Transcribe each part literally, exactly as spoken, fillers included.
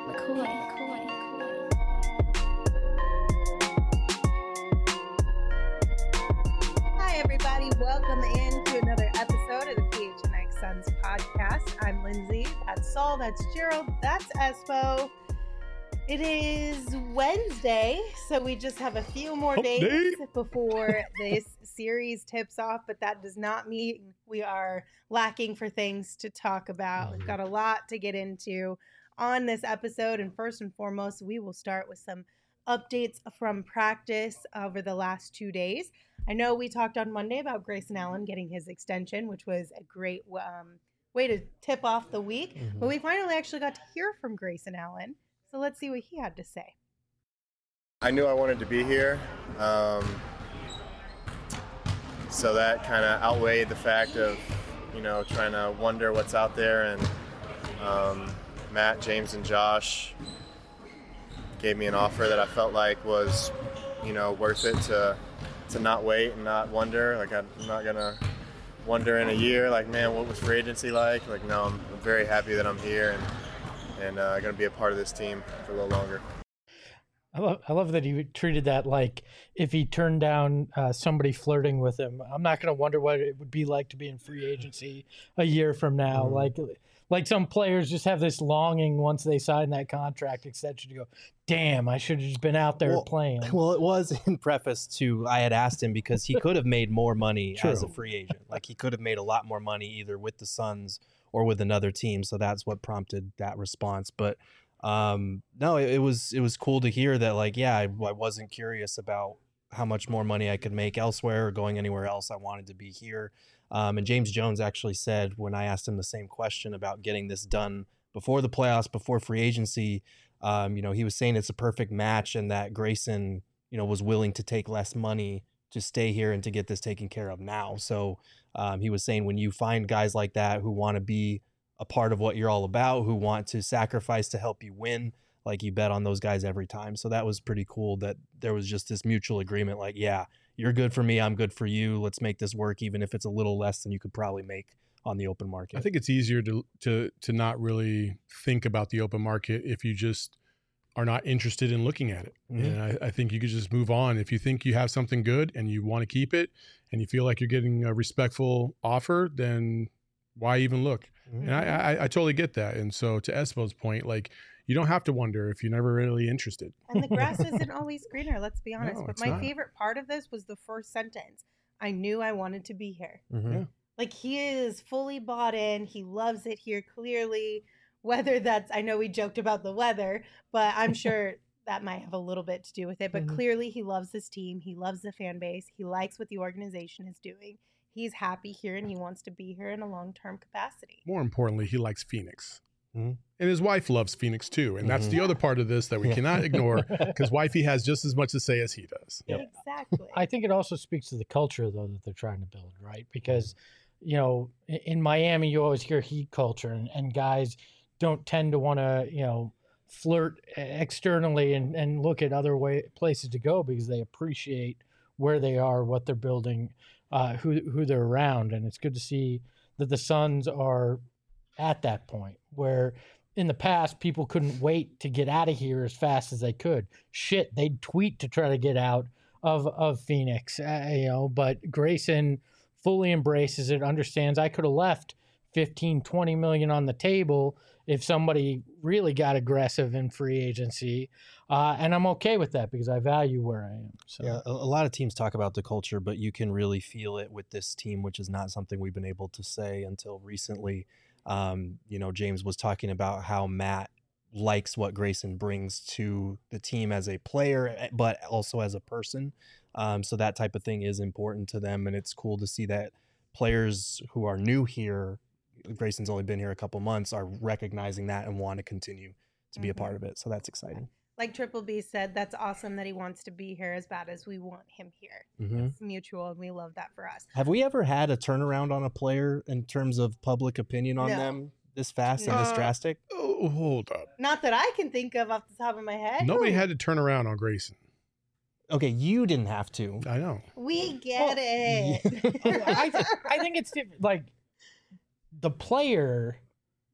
McCoy, McCoy, McCoy. Hi, everybody. Welcome in to another episode of the P H N X Suns podcast. I'm Lindsay. That's Saul. That's Gerald. That's Espo. It is Wednesday, so we just have a few more Update. days before this series tips off, but that does not mean we are lacking for things to talk about. We've got a lot to get into on this episode, and first and foremost, we will start with some updates from practice over the last two days. I know we talked on Monday about Grayson Allen getting his extension, which was a great um, way to tip off the week, Mm-hmm. but we finally actually got to hear from Grayson Allen. So let's see what he had to say. I knew I wanted to be here, um, so that kind of outweighed the fact of, you know, trying to wonder what's out there. And um, Matt, James, and Josh gave me an offer that I felt like was, you know, worth it to to not wait and not wonder. Like, I'm not gonna wonder in a year, like, man, what was free agency like? Like, no, I'm, I'm very happy that I'm here and and uh, going to be a part of this team for a little longer. I love, I love that he treated that like if he turned down uh, somebody flirting with him. I'm not going to wonder what it would be like to be in free agency a year from now. Mm-hmm. Like, like some players just have this longing once they sign that contract extension to go, damn, I should have just been out there well, playing. Well, it was in preface to, I had asked him because he could have made more money True. as a free agent. Like, he could have made a lot more money either with the Suns or with another team. So that's what prompted that response. But um, no, it, it was it was cool to hear that, like, yeah, I, I wasn't curious about how much more money I could make elsewhere or going anywhere else. I wanted to be here. Um, and James Jones actually said, when I asked him the same question about getting this done before the playoffs, before free agency, um, you know, he was saying it's a perfect match and that Grayson, you know, was willing to take less money to stay here and to get this taken care of now. So um, he was saying when you find guys like that who want to be a part of what you're all about, who want to sacrifice to help you win, like, you bet on those guys every time. So that was pretty cool that there was just this mutual agreement, like, yeah, you're good for me, I'm good for you. Let's make this work, even if it's a little less than you could probably make on the open market. I think it's easier to to to not really think about the open market if you just are not interested in looking at it. Mm-hmm. And I, I think you could just move on. If you think you have something good and you want to keep it and you feel like you're getting a respectful offer, then why even look? Mm-hmm. And I, I, I totally get that. And so to Espo's point, like, you don't have to wonder if you're never really interested. And the grass isn't always greener, let's be honest. No, but it's my not. favorite part of this was the first sentence. I knew I wanted to be here. Mm-hmm. Yeah. Like, he is fully bought in. He loves it here, clearly. Whether that's, I know we joked about the weather, but I'm sure that might have a little bit to do with it. But Mm-hmm. clearly he loves this team. He loves the fan base. He likes what the organization is doing. He's happy here and he wants to be here in a long-term capacity. More importantly, he likes Phoenix. Mm-hmm. And his wife loves Phoenix too. And that's Mm-hmm. the other part of this that we cannot ignore, because wifey has just as much to say as he does. Yep. Exactly. I think it also speaks to the culture, though, that they're trying to build, right? Because, you know, in- in Miami, you always hear heat culture, and, and guys don't tend to want to, you know, flirt externally and, and look at other way places to go because they appreciate where they are, what they're building, uh, who who they're around. And it's good to see that the Suns are at that point where in the past people couldn't wait to get out of here as fast as they could. Shit, they'd tweet to try to get out of of Phoenix, uh, you know, but Grayson fully embraces it, understands I could have left fifteen, twenty million on the table if somebody really got aggressive in free agency. Uh, and I'm okay with that because I value where I am. So Yeah, a, a lot of teams talk about the culture, but you can really feel it with this team, which is not something we've been able to say until recently. Um, you know, James was talking about how Matt likes what Grayson brings to the team as a player, but also as a person. Um, so that type of thing is important to them. And it's cool to see that players who are new here, Grayson's only been here a couple months, are recognizing that and want to continue to be Mhm. a part of it. So that's exciting. Like Triple B said, that's awesome that he wants to be here as bad as we want him here. Mm-hmm. It's mutual, and we love that for us. Have we ever had a turnaround on a player in terms of public opinion on No. them this fast and this Uh, drastic? Oh, hold up. Not that I can think of off the top of my head. Nobody had to turn around on Grayson. Okay, you didn't have to. I know. We get it. I, th- I think it's different. Like the player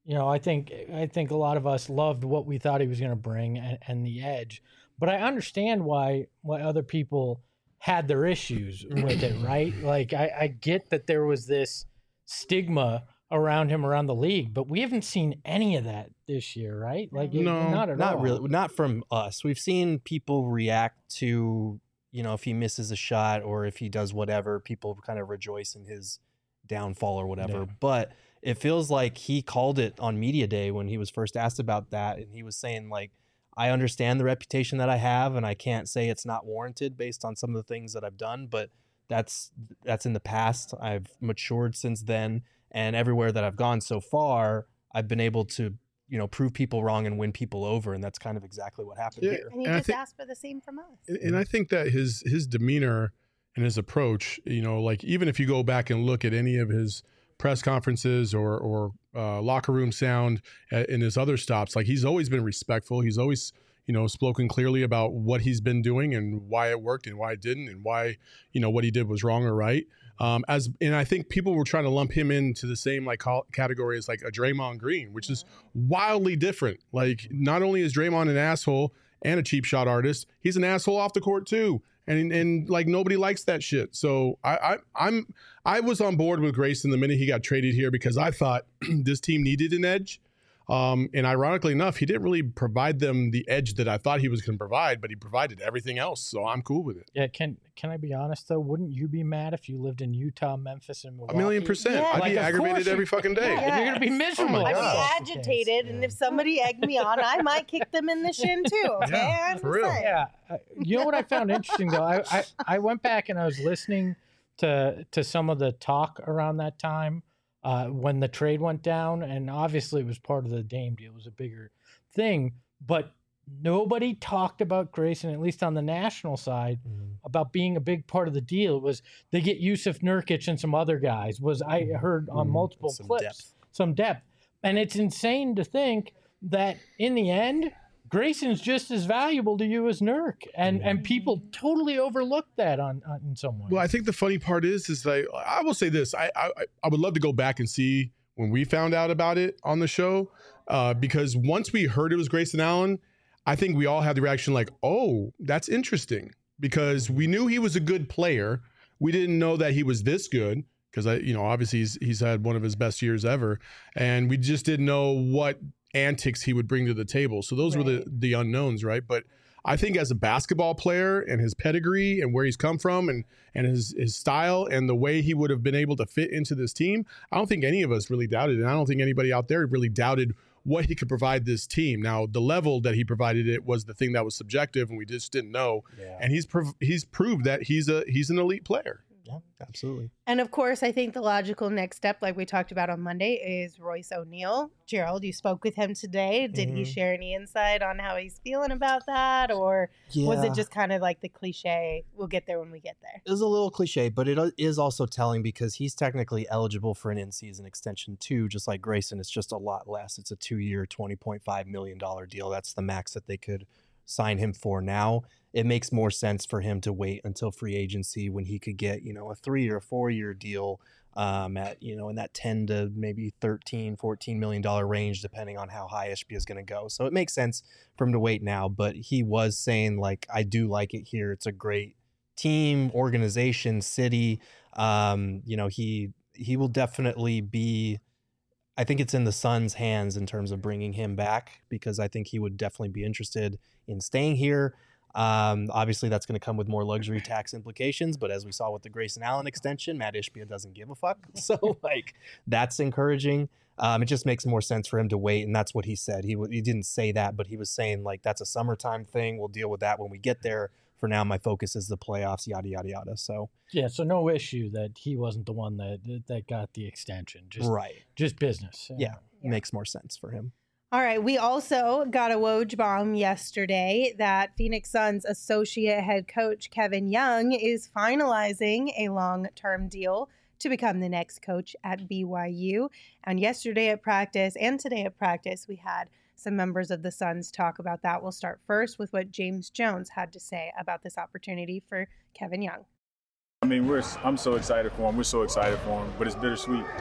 You know, I think I think a lot of us loved what we thought he was going to bring and, and the edge, but I understand why why other people had their issues with it, right? Like I, I get that there was this stigma around him around the league, but we haven't seen any of that this year, right? Like No, not at Not all. really, not from us. We've seen people react to, you know, if he misses a shot or if he does whatever, people kind of rejoice in his downfall or whatever. Yeah. But it feels like he called it on media day when he was first asked about that, and he was saying like, I understand the reputation that I have, and I can't say it's not warranted based on some of the things that I've done, but that's that's in the past. I've matured since then, and everywhere that I've gone so far, I've been able to, you know, prove people wrong and win people over, and that's kind of exactly what happened Yeah. here. And he And I just think- asked for the same from us. And, and I think that his his demeanor and his approach, you know, like even if you go back and look at any of his press conferences or or uh, locker room sound at, in his other stops, like he's always been respectful. He's always, you know, spoken clearly about what he's been doing and why it worked and why it didn't, and why, you know, what he did was wrong or right. Um, as and I think people were trying to lump him into the same like call, category as like a Draymond Green, which is wildly different. Like not only is Draymond an asshole and a cheap shot artist, he's an asshole off the court too. And and like nobody likes that shit. So I, I I'm I was on board with Grayson the minute he got traded here because I thought this team needed an edge. Um, and ironically enough, he didn't really provide them the edge that I thought he was going to provide, but he provided everything else. So I'm cool with it. Yeah, can can I be honest though? Wouldn't you be mad if you lived in Utah, Memphis, and A Milwaukee? million percent. Yeah. I'd Like, be of aggravated course every you- fucking day. Yeah, you're gonna be Yes. miserable. Oh my I'd if God. that's be the case. agitated, and if somebody egged me on, I might kick them in the shin too. Okay, Yeah, I'm for just real. saying. Yeah, uh, you know what I found interesting though. I, I I went back and I was listening to to some of the talk around that time uh, when the trade went down, and obviously it was part of the Dame deal. It was a bigger thing, but nobody talked about Grayson, at least on the national side, about being a big part of the deal. It was they get Yusuf Nurkic and some other guys. Was I heard on Mhm. multiple Some clips depth. some depth, and it's insane to think that in the end, Grayson's just as valuable to you as Nurk, and and people totally overlooked that on, on in some ways. Well, I think the funny part is, is like I will say this: I, I I would love to go back and see when we found out about it on the show, uh, because once we heard it was Grayson Allen, I think we all had the reaction like, "Oh, that's interesting," because we knew he was a good player. We didn't know that he was this good because I, you know, obviously he's he's had one of his best years ever, and we just didn't know what antics he would bring to the table. So those were the the unknowns, right? But I think as a basketball player and his pedigree and where he's come from and and his his style and the way he would have been able to fit into this team, I don't think any of us really doubted it. And I don't think anybody out there really doubted what he could provide this team. Now, the level that he provided it was the thing that was subjective, and we just didn't know. Yeah, And he's prov- he's proved that he's a he's an elite player. yeah, absolutely. And of course, I think the logical next step, like we talked about on Monday, is Royce O'Neal. Gerald, you spoke with him today. Did he Mhm. share any insight on how he's feeling about that? Or was it just kind of like the cliche, we'll get there when we get there? It was a little cliche, but it is also telling because he's technically eligible for an in-season extension too, just like Grayson. It's just a lot less. It's a two-year, twenty point five million dollars deal. That's the max that they could sign him for now. It makes more sense for him to wait until free agency when he could get, you know, a three or four year deal um, at, you know, in that ten to maybe thirteen, fourteen million dollar range, depending on how high Ishbia is going to go. So it makes sense for him to wait now. But he was saying, like, I do like it here. It's a great team, organization, city. Um, you know, he he will definitely be. I think it's in the Suns' hands in terms of bringing him back, because I think he would definitely be interested in staying here. Um, obviously, that's going to come with more luxury tax implications, but as we saw with the Grayson Allen extension, Matt Ishbia doesn't give a fuck. So, like, that's encouraging. Um, it just makes more sense for him to wait, and that's what he said. He w- he didn't say that, but he was saying, like, that's a summertime thing. We'll deal with that when we get there. For now, my focus is the playoffs, yada, yada, yada. So, yeah, so no issue that he wasn't the one that that got the extension. Just right. just business. Yeah, Yeah. makes more sense for him. All right. We also got a Woj bomb yesterday that Phoenix Suns associate head coach Kevin Young is finalizing a long-term deal to become the next coach at B Y U. And yesterday at practice and today at practice, we had some members of the Suns talk about that. We'll start first with what James Jones had to say about this opportunity for Kevin Young. I mean, we're I'm so excited for him. We're so excited for him, but it's bittersweet.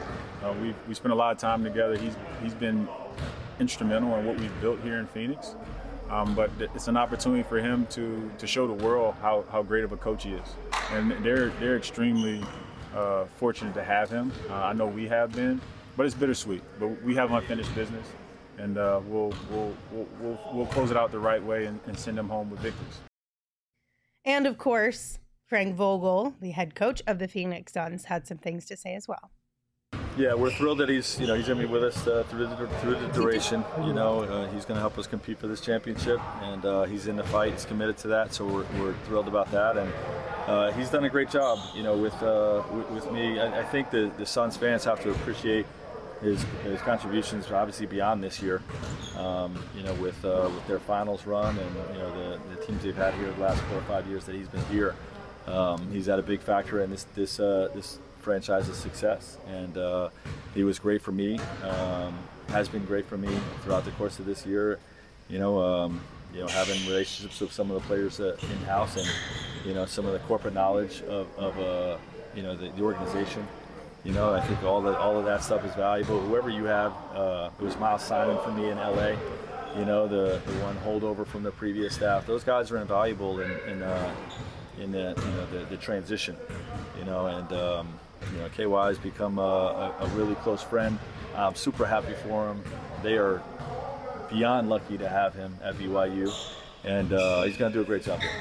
Uh, we we spent a lot of time together. He's he's been instrumental in what we've built here in Phoenix. Um, but it's an opportunity for him to to show the world how, how great of a coach he is, and they're they're extremely uh, fortunate to have him. Uh, I know we have been, but it's bittersweet. But we have unfinished business, and uh, we'll, we'll we'll we'll we'll close it out the right way and, and send them home with victories. And of course, Frank Vogel, the head coach of the Phoenix Suns, had some things to say as well. Yeah, we're thrilled that he's, you know, he's going to be with us uh, through the through the duration. You know, uh, he's going to help us compete for this championship, and uh, he's in the fight. He's committed to that, so we're, we're thrilled about that. And uh, he's done a great job, you know, with uh, with, with me. I, I think the the Suns fans have to appreciate his his contributions, obviously beyond this year. Um, you know, with uh, with their finals run, and you know the, the teams they've had here the last four or five years that he's been here. Um, he's had a big factor in this this uh, this. franchise's success, and uh, he was great for me. Um, has been great for me throughout the course of this year. You know, um, you know, having relationships with some of the players uh, in house, and you know, some of the corporate knowledge of, of uh, you know, the, the organization. You know, I think all the all of that stuff is valuable. Whoever you have, uh, it was Miles Simon for me in L A. You know, the the one holdover from the previous staff. Those guys are invaluable in in, uh, in the you know the, the transition. You know, and um, you know, K Y has become a, a, a really close friend. I'm super happy for him. They are beyond lucky to have him at B Y U, and uh, he's going to do a great job there.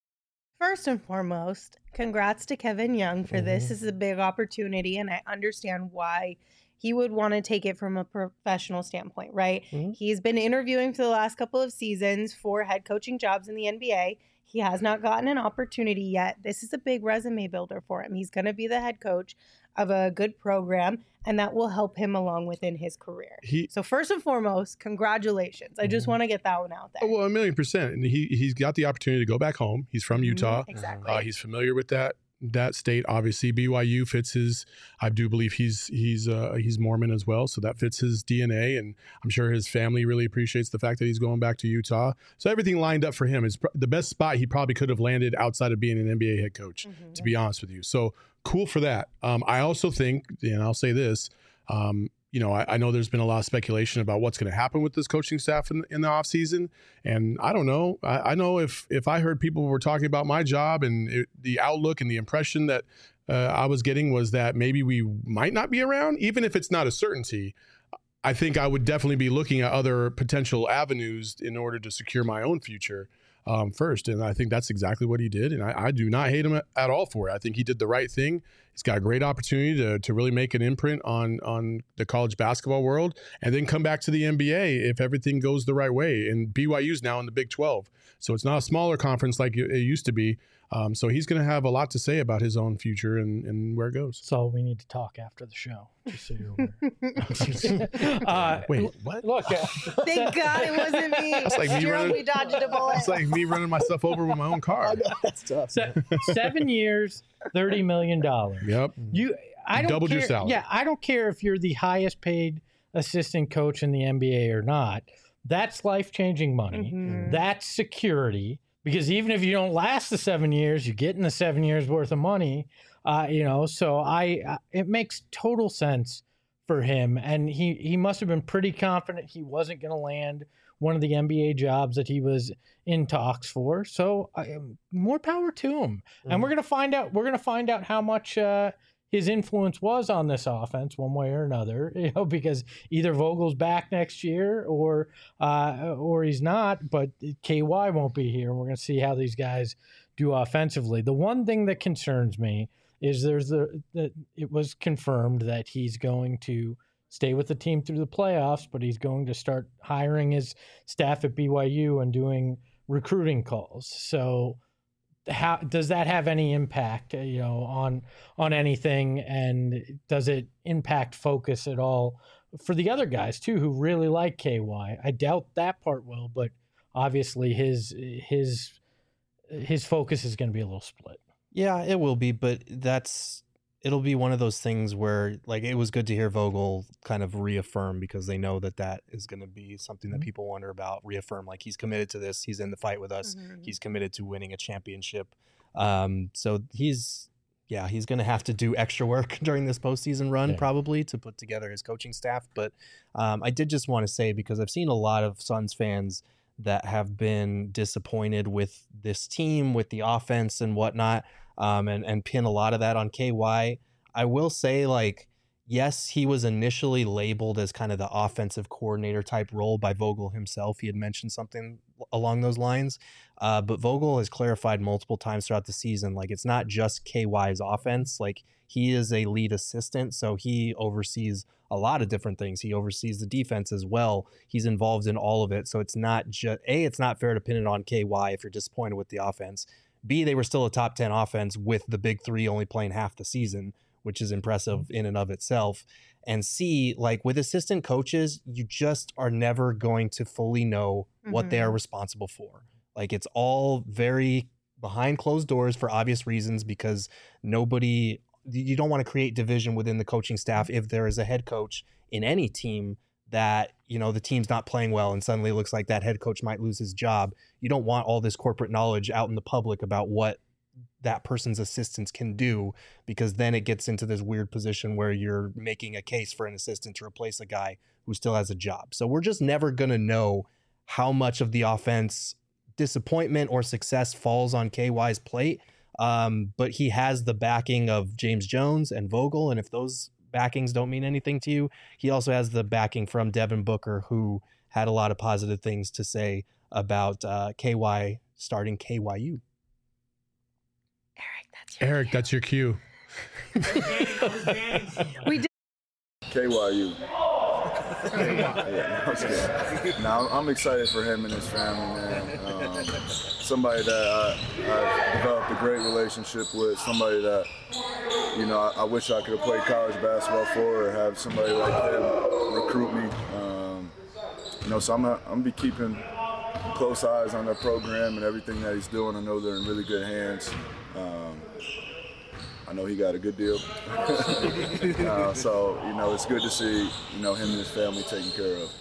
First and foremost, congrats to Kevin Young for mm-hmm. this. This is a big opportunity, and I understand why he would want to take it from a professional standpoint, right? Mm-hmm. He's been interviewing for the last couple of seasons for head coaching jobs in the N B A. He has not gotten an opportunity yet. This is a big resume builder for him. He's going to be the head coach of a good program, and that will help him along within his career. He, so first and foremost, congratulations. I just want to get that one out there. Oh, well, a million percent. And he, he's got the opportunity to go back home. He's from Utah. Mm-hmm, exactly. Uh, he's familiar with that that state. Obviously, B Y U fits his, I do believe he's he's uh, he's Mormon as well, so that fits his D N A, and I'm sure his family really appreciates the fact that he's going back to Utah. So everything lined up for him is pr- the best spot he probably could have landed outside of being an N B A head coach, mm-hmm. to be honest with you. So cool for that. Um, I also think, and I'll say this, um, you know, I, I know there's been a lot of speculation about what's going to happen with this coaching staff in, in the offseason. And I don't know. I, I know if if I heard people were talking about my job and it, the outlook and the impression that uh, I was getting was that maybe we might not be around, even if it's not a certainty, I think I would definitely be looking at other potential avenues in order to secure my own future um, first. And I think that's exactly what he did. And I, I do not hate him at, at all for it. I think he did the right thing. He's got a great opportunity to to really make an imprint on on the college basketball world and then come back to the N B A if everything goes the right way. And B Y U's now in the Big twelve. So it's not a smaller conference like it used to be. Um, so he's going to have a lot to say about his own future and, and where it goes. So we need to talk after the show, just so you're aware. uh, Wait, what? Look. Uh, Thank God it wasn't me. It's like me Jerome, running, we dodged a bullet. It's like me running myself over with my own car. That's tough. Se- seven years, thirty million dollars. Yep. You, I don't doubled care, your salary. Yeah, I don't care if you're the highest paid assistant coach in the N B A or not. That's life-changing money. Mm-hmm. That's security. Because even if you don't last the seven years, you're getting the seven years worth of money. Uh, you know, so I, uh, it makes total sense for him, and he he must have been pretty confident he wasn't going to land one of the N B A jobs that he was in talks for. So uh, more power to him. Mm-hmm. And we're gonna find out. We're gonna find out how much uh, his influence was on this offense, one way or another. You know, because either Vogel's back next year, or uh, or he's not. But K Y won't be here. We're gonna see how these guys do offensively. The one thing that concerns me is there's the that it was confirmed that he's going to stay with the team through the playoffs, but he's going to start hiring his staff at B Y U and doing recruiting calls. So how does that have any impact, you know, on on anything, and does it impact focus at all for the other guys too who really like K Y? I doubt that part will, but obviously his his his focus is going to be a little split. Yeah, it will be, but that's it'll be one of those things where, like, it was good to hear Vogel kind of reaffirm, because they know that that is going to be something that people wonder about. Reaffirm, like, he's committed to this. He's in the fight with us. Mm-hmm. He's committed to winning a championship. Um, so he's yeah, he's going to have to do extra work during this postseason run Yeah. probably to put together his coaching staff. But um, I did just want to say, because I've seen a lot of Suns fans that have been disappointed with this team, with the offense and whatnot, um, and, and pin a lot of that on K Y. I will say, like, yes, he was initially labeled as kind of the offensive coordinator type role by Vogel himself. He had mentioned something along those lines. Uh, but Vogel has clarified multiple times throughout the season, like, it's not just K Y's offense. Like, he is a lead assistant, so he oversees a lot of different things. He oversees the defense as well. He's involved in all of it. So it's not just, A, it's not fair to pin it on K Y if you're disappointed with the offense. B, they were still a top ten offense with the big three only playing half the season, which is impressive in and of itself. And C, like, with assistant coaches, you just are never going to fully know what they are responsible for. Like, it's all very behind closed doors for obvious reasons, because nobody, you don't want to create division within the coaching staff if there is a head coach in any team that, you know, the team's not playing well and suddenly it looks like that head coach might lose his job. You don't want all this corporate knowledge out in the public about what that person's assistants can do, because then it gets into this weird position where you're making a case for an assistant to replace a guy who still has a job. So we're just never going to know how much of the offense disappointment or success falls on K Y's plate. Um, but he has the backing of James Jones and Vogel. And if those backings don't mean anything to you, he also has the backing from Devin Booker, who had a lot of positive things to say about uh, K Y starting K Y U. Eric, that's your Eric, that's your cue. we did. K Y U. Yeah, no, I'm just kidding. No, I'm excited for him and his family, man. Um, somebody that I, I've developed a great relationship with, somebody that, you know, I, I wish I could have played college basketball for, or have somebody like him recruit me. Um, you know, so I'm gonna, I'm gonna be keeping close eyes on their program and everything that he's doing. I know they're in really good hands. Um, I know he got a good deal. uh, so, you know, it's good to see, you know, him and his family taken care of.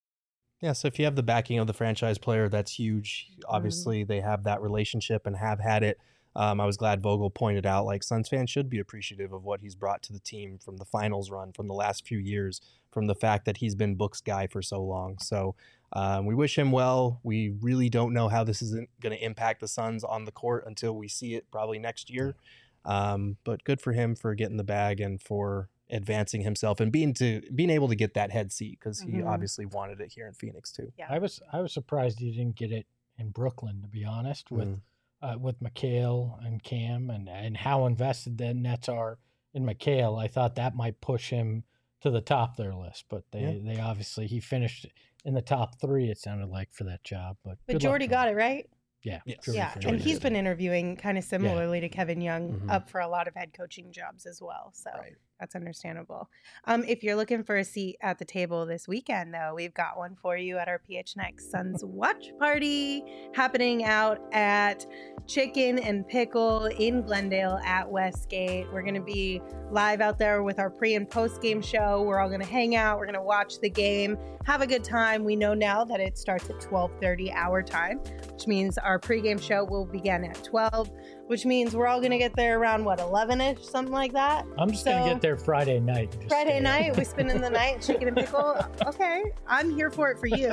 Yeah, so if you have the backing of the franchise player, that's huge. Obviously, they have that relationship and have had it. Um, I was glad Vogel pointed out, like, Suns fans should be appreciative of what he's brought to the team from the finals run, from the last few years, from the fact that he's been Book's guy for so long. So um, we wish him well. We really don't know how this is going to impact the Suns on the court until we see it probably next year. Um, but good for him for getting the bag and for advancing himself and being to being able to get that head seat, because he Mhm. obviously wanted it here in Phoenix too. Yeah. I was I was surprised he didn't get it in Brooklyn, to be honest, with Mm. uh, with McHale and Cam, and and how invested the Nets are in McHale. I thought that might push him to the top of their list, but they Yeah. they obviously he finished in the top three. It sounded like for that job, but But Jordy got it, right? Yeah, Yes. Jordy Yeah, for and Jordy he's did. been interviewing kind of similarly to Kevin Young, Mhm. up for a lot of head coaching jobs as well. So Right. that's understandable. Um, if you're looking for a seat at the table this weekend, though, we've got one for you at our P H N X Suns watch party happening out at Chicken and Pickle in Glendale at Westgate. We're going to be live out there with our pre and post game show. We're all going to hang out. We're going to watch the game, have a good time. We know now that it starts at twelve thirty our time, which means our pregame show will begin at twelve, which means we're all going to get there around, what, eleven-ish, something like that? I'm just gonna So- get there Friday night. and just Friday stay night, up. we spending the night, chicken and pickle. Okay, I'm here for it for you.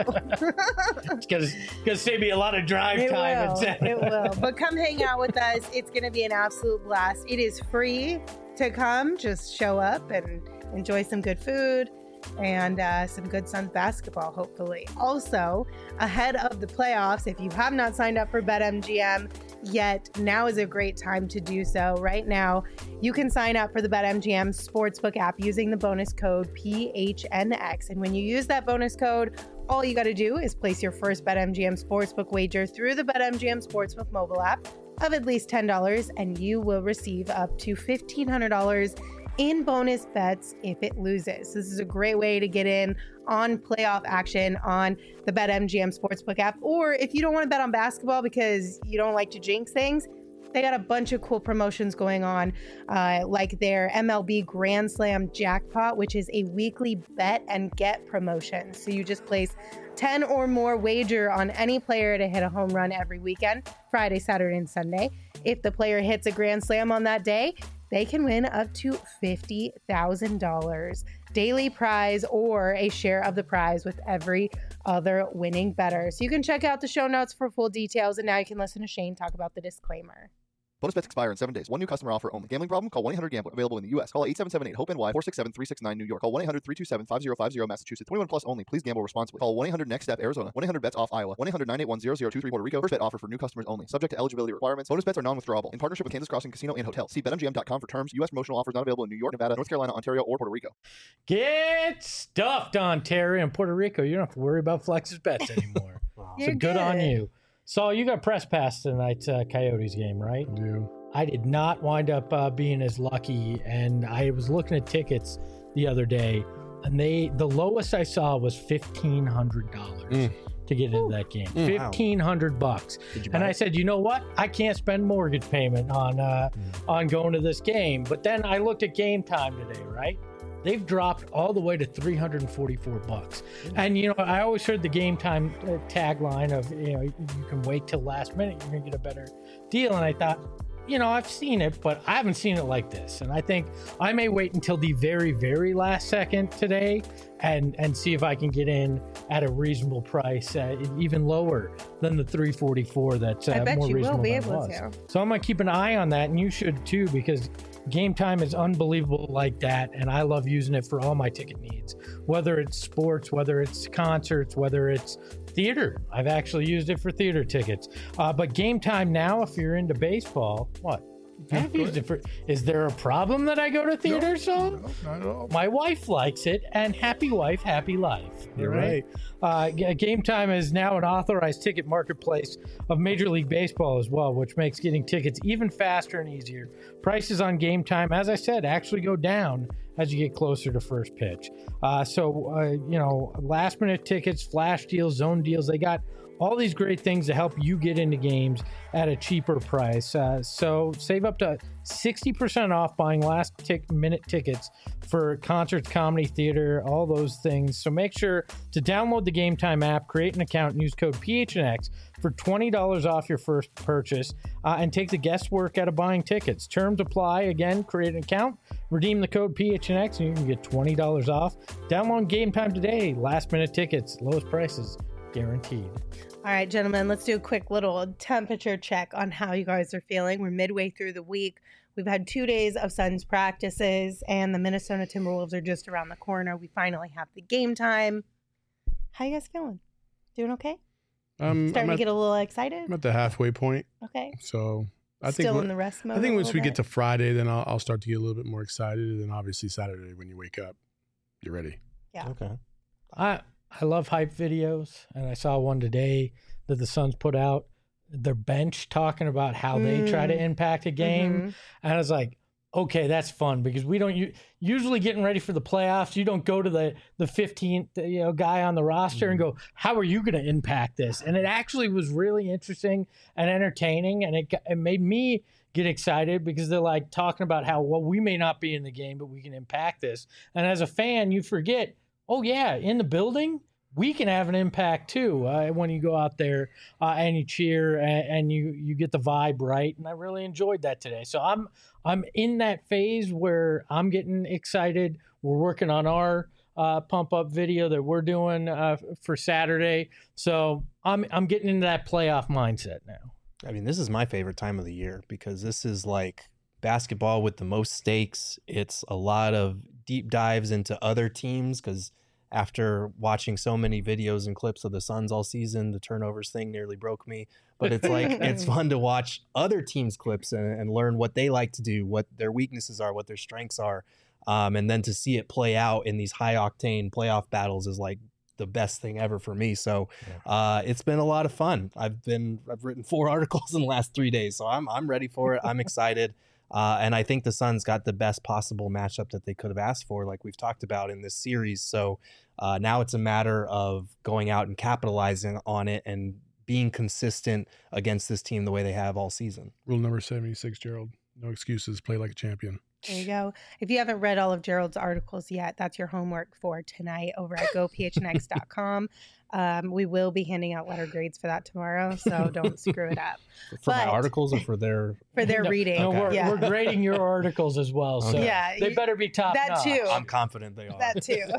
It's gonna, gonna save me a lot of drive It time. will. and- It will. But come hang out with us. It's going to be an absolute blast. It is free to come. Just show up and enjoy some good food and uh, some good Suns basketball, hopefully. Also, ahead of the playoffs, if you have not signed up for BetMGM yet, now is a great time to do so. Right now, you can sign up for the BetMGM Sportsbook app using the bonus code P H N X. And when you use that bonus code, all you got to do is place your first BetMGM Sportsbook wager through the BetMGM Sportsbook mobile app of at least ten dollars, and you will receive up to fifteen hundred dollars in bonus bets if it loses. This is a great way to get in on playoff action on the BetMGM Sportsbook app. Or if you don't want to bet on basketball because you don't like to jinx things, they got a bunch of cool promotions going on, uh, like their M L B Grand Slam Jackpot, which is a weekly bet and get promotion. So you just place ten or more wager on any player to hit a home run every weekend, Friday, Saturday, and Sunday. If the player hits a Grand Slam on that day, they can win up to fifty thousand dollars daily prize or a share of the prize with every other winning bettor. So you can check out the show notes for full details. And now you can listen to Shane talk about the disclaimer. Bonus bets expire in seven days. One new customer offer only. Gambling problem? Call one eight hundred gambler. Available in the U S. Call eight seven seven eight hope N Y four six seven three six nine New York. Call one eight hundred three two seven five zero five zero Massachusetts. twenty-one plus only. Please gamble responsibly. Call one eight hundred next step Arizona. one eight hundred bets off Iowa. one eight hundred nine eight one zero zero two three Puerto Rico. First bet offer for new customers only. Subject to eligibility requirements. Bonus bets are non-withdrawable. In partnership with Kansas Crossing Casino and Hotel. See bet M G M dot com for terms. U S promotional offers not available in New York, Nevada, North Carolina, Ontario, or Puerto Rico. Get stuffed, Ontario and Puerto Rico. You don't have to worry about Flex's bets anymore. Wow. So good, good on you. Saul, you got press pass tonight's uh, Coyotes game, right? I do. I did not wind up uh, being as lucky, and I was looking at tickets the other day, and they the lowest I saw was fifteen hundred dollars mm. to get into that game. Mm. fifteen hundred bucks. And I said, you know what? I can't spend mortgage payment on uh, mm. on going to this game. But then I looked at Game Time today, right? They've dropped all the way to three hundred forty-four bucks. Mm. And, you know, I always heard the Game Time uh, tagline of, you know, you can wait till last minute, you're going to get a better deal. And I thought, you know, I've seen it, but I haven't seen it like this. And I think I may wait until the very, very last second today and and see if I can get in at a reasonable price, uh, even lower than the three forty-four that's uh, I bet more you reasonable will be than able it was. to. So I'm going to keep an eye on that, and you should too, because Game Time is unbelievable like that, and I love using it for all my ticket needs, whether it's sports, whether it's concerts, whether it's theater. I've actually used it for theater tickets. Uh, but Game Time now, if you're into baseball, what? I've used it for, is there a problem that I go to theater, no, so? No, not at all. My wife likes it, and happy wife, happy life. You're right. right. Uh, Game Time is now an authorized ticket marketplace of Major League Baseball as well, which makes getting tickets even faster and easier. Prices on Game Time, as I said, actually go down as you get closer to first pitch. Uh, so, uh, you know, last minute tickets, flash deals, zone deals, they got all these great things to help you get into games at a cheaper price. Uh, so save up to sixty percent off buying last tick minute tickets for concerts, comedy, theater, all those things. So make sure to download the Game Time app, create an account, and use code P H N X for twenty dollars off your first purchase uh, and take the guesswork out of buying tickets. Terms apply. Again, create an account, redeem the code P H N X, and you can get twenty dollars off. Download Game Time today. Last minute tickets, lowest prices guaranteed. All right, gentlemen, let's do a quick little temperature check on how you guys are feeling. We're midway through the week. We've had two days of Suns practices, and the Minnesota Timberwolves are just around the corner. We finally have the game time. How you guys feeling? Doing okay? Um, Starting I'm to at, get a little excited? I'm at the halfway point. Okay. So I Still think in the rest mode I think a once little we get bit? to Friday, then I'll, I'll start to get a little bit more excited. And then obviously Saturday when you wake up, you're ready. Yeah. Okay. I I love hype videos, and I saw one today that the Suns put out, their bench talking about how mm. they try to impact a game. Mm-hmm. And I was like, okay, that's fun, because we don't u- usually getting ready for the playoffs. You don't go to the the fifteenth you know guy on the roster mm-hmm. and go, how are you going to impact this? And it actually was really interesting and entertaining, and it it made me get excited, because they're like talking about how, well, we may not be in the game, but we can impact this. And as a fan, you forget, oh yeah, in the building, we can have an impact too uh, when you go out there uh, and you cheer and, and you you get the vibe right. And I really enjoyed that today. So I'm I'm in that phase where I'm getting excited. We're working on our uh, pump up video that we're doing uh, for Saturday. So I'm I'm getting into that playoff mindset now. I mean, this is my favorite time of the year, because this is like basketball with the most stakes. It's a lot of deep dives into other teams, because after watching so many videos and clips of the Suns all season, the turnovers thing nearly broke me. But it's like, it's fun to watch other teams' clips and, and learn what they like to do, what their weaknesses are, what their strengths are. Um, and then to see it play out in these high octane playoff battles is like the best thing ever for me. So uh, it's been a lot of fun. I've been, I've written four articles in the last three days, so I'm, I'm ready for it. I'm excited. Uh, and I think the Suns got the best possible matchup that they could have asked for, like we've talked about in this series. So uh, now it's a matter of going out and capitalizing on it and being consistent against this team the way they have all season. Rule number seventy-six, Gerald. No excuses. Play like a champion. There you go. If you haven't read all of Gerald's articles yet, that's your homework for tonight over at go p h n x dot com. Um, we will be handing out letter grades for that tomorrow, so don't screw it up. For But- my articles or for their For their No, reading. No, we're, yeah. we're grading your articles as well, so Okay. Yeah, they you- better be top that notch. too. I'm confident they are. That too.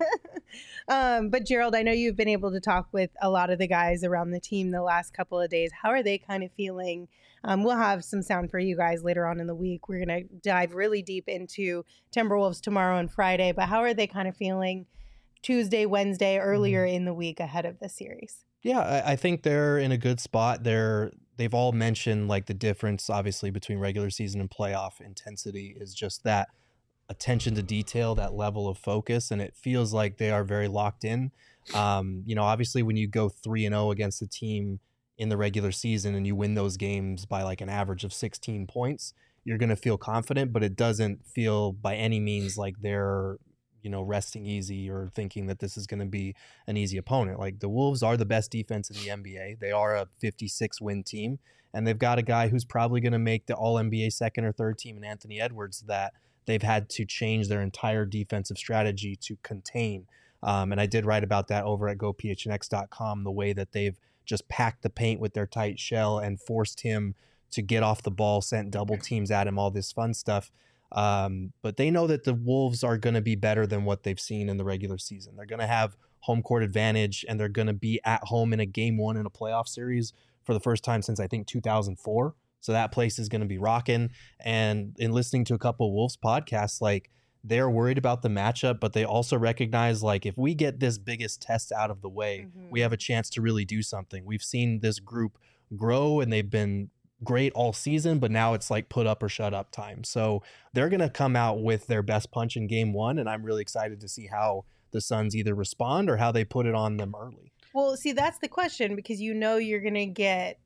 um, but Gerald, I know you've been able to talk with a lot of the guys around the team the last couple of days. How are they kind of feeling? Um, we'll have some sound for you guys later on in the week. We're going to dive really deep into Timberwolves tomorrow and Friday, but how are they kind of feeling Tuesday, Wednesday, earlier in the week ahead of the series? Yeah, I, I think they're in a good spot. They're they've all mentioned like the difference, obviously, between regular season and playoff intensity is just that attention to detail, that level of focus, and it feels like they are very locked in. Um, you know, obviously, when you go three and zero against a team in the regular season and you win those games by like an average of sixteen points, you're going to feel confident, but it doesn't feel by any means like they're, you know, resting easy or thinking that this is going to be an easy opponent. Like the Wolves are the best defense in the N B A. They are a fifty-six win team, and they've got a guy who's probably going to make the all N B A second or third team in Anthony Edwards that they've had to change their entire defensive strategy to contain. Um, and I did write about that over at go p h n x dot com, the way that they've just packed the paint with their tight shell and forced him to get off the ball, sent double teams at him, all this fun stuff. Um, but they know that the Wolves are going to be better than what they've seen in the regular season. They're going to have home court advantage, and they're going to be at home in a game one in a playoff series for the first time since I think two thousand four. So that place is going to be rocking. And in listening to a couple of Wolves podcasts, like they're worried about the matchup, but they also recognize like if we get this biggest test out of the way, Mhm. we have a chance to really do something. We've seen this group grow, and they've been great all season, but now it's like put up or shut up time. So they're going to come out with their best punch in game one, and I'm really excited to see how the Suns either respond or how they put it on them early. Well, see, that's the question, because you know you're going to get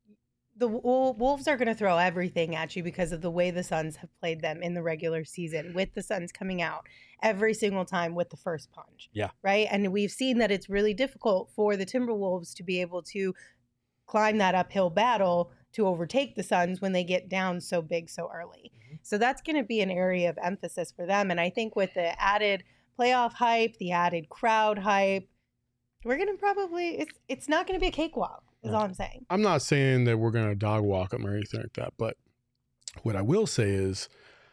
the Wol- Wolves are going to throw everything at you because of the way the Suns have played them in the regular season, with the Suns coming out every single time with the first punch. Yeah. Right. And we've seen that it's really difficult for the Timberwolves to be able to climb that uphill battle to overtake the Suns when they get down so big so early. Mm-hmm. So that's going to be an area of emphasis for them. And I think with the added playoff hype, the added crowd hype, we're going to probably, it's it's not going to be a cakewalk, is Yeah. all I'm saying. I'm not saying that we're going to dog walk them or anything like that, but what I will say is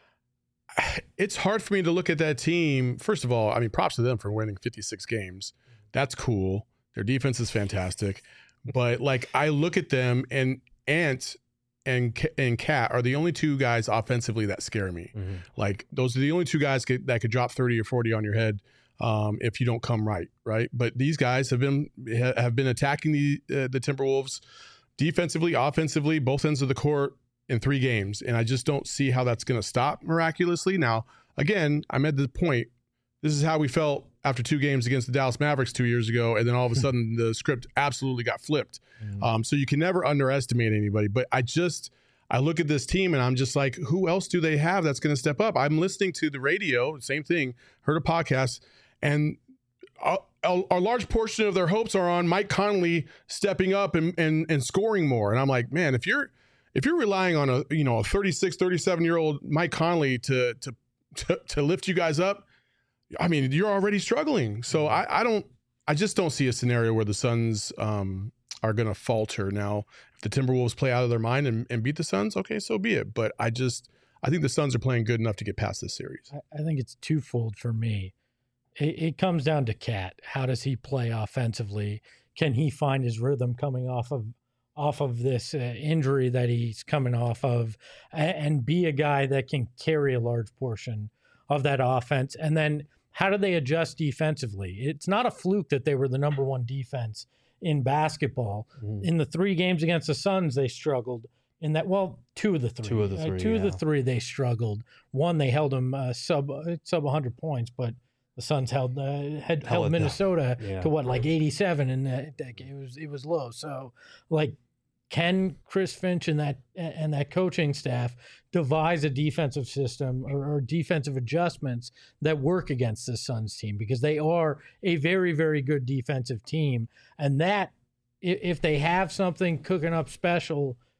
it's hard for me to look at that team. First of all, I mean, props to them for winning fifty-six games. That's cool. Their defense is fantastic. But like I look at them, and Ant and K- and Cat are the only two guys offensively that scare me. Mm-hmm. Like those are the only two guys get, that could drop thirty or forty on your head um, if you don't come right, right? But these guys have been ha- have been attacking the uh, the Timberwolves defensively, offensively, both ends of the court in three games, and I just don't see how that's going to stop miraculously. Now, again, I'm at the point. This is how we felt after two games against the Dallas Mavericks two years ago, and then all of a sudden the script absolutely got flipped. Mm-hmm. Um, so you can never underestimate anybody. But I just I look at this team and I'm just like, who else do they have that's going to step up? I'm listening to the radio, same thing, heard a podcast, and a, a, a large portion of their hopes are on Mike Conley stepping up and, and and scoring more. And I'm like, man, if you're if you're relying on a you know a thirty-six, thirty-seven year old Mike Conley to to to, to lift you guys up, I mean, you're already struggling. So I, I don't, I just don't see a scenario where the Suns um, are going to falter. Now, if the Timberwolves play out of their mind and, and beat the Suns, okay, so be it. But I just, I think the Suns are playing good enough to get past this series. I, I think it's twofold for me. It, it comes down to Cat. How does he play offensively? Can he find his rhythm coming off of off of this uh, injury that he's coming off of, and, and be a guy that can carry a large portion of that offense? And then how do they adjust defensively? It's not a fluke that they were the number one defense in basketball. Mm-hmm. In the three games against the Suns, they struggled. In that, well, two of the three. Two of the Uh, three, two of the yeah. three, they struggled. One, they held them uh, sub uh, sub one hundred points, but the Suns held uh, had Held held it Minnesota down. Yeah. to what, like eighty-seven, and that, that it was it was low. So, like, can Chris Finch and that and that coaching staff devise a defensive system or, or defensive adjustments that work against this Suns team? Because they are a very, very good defensive team. And that, i- if they have something cooking up special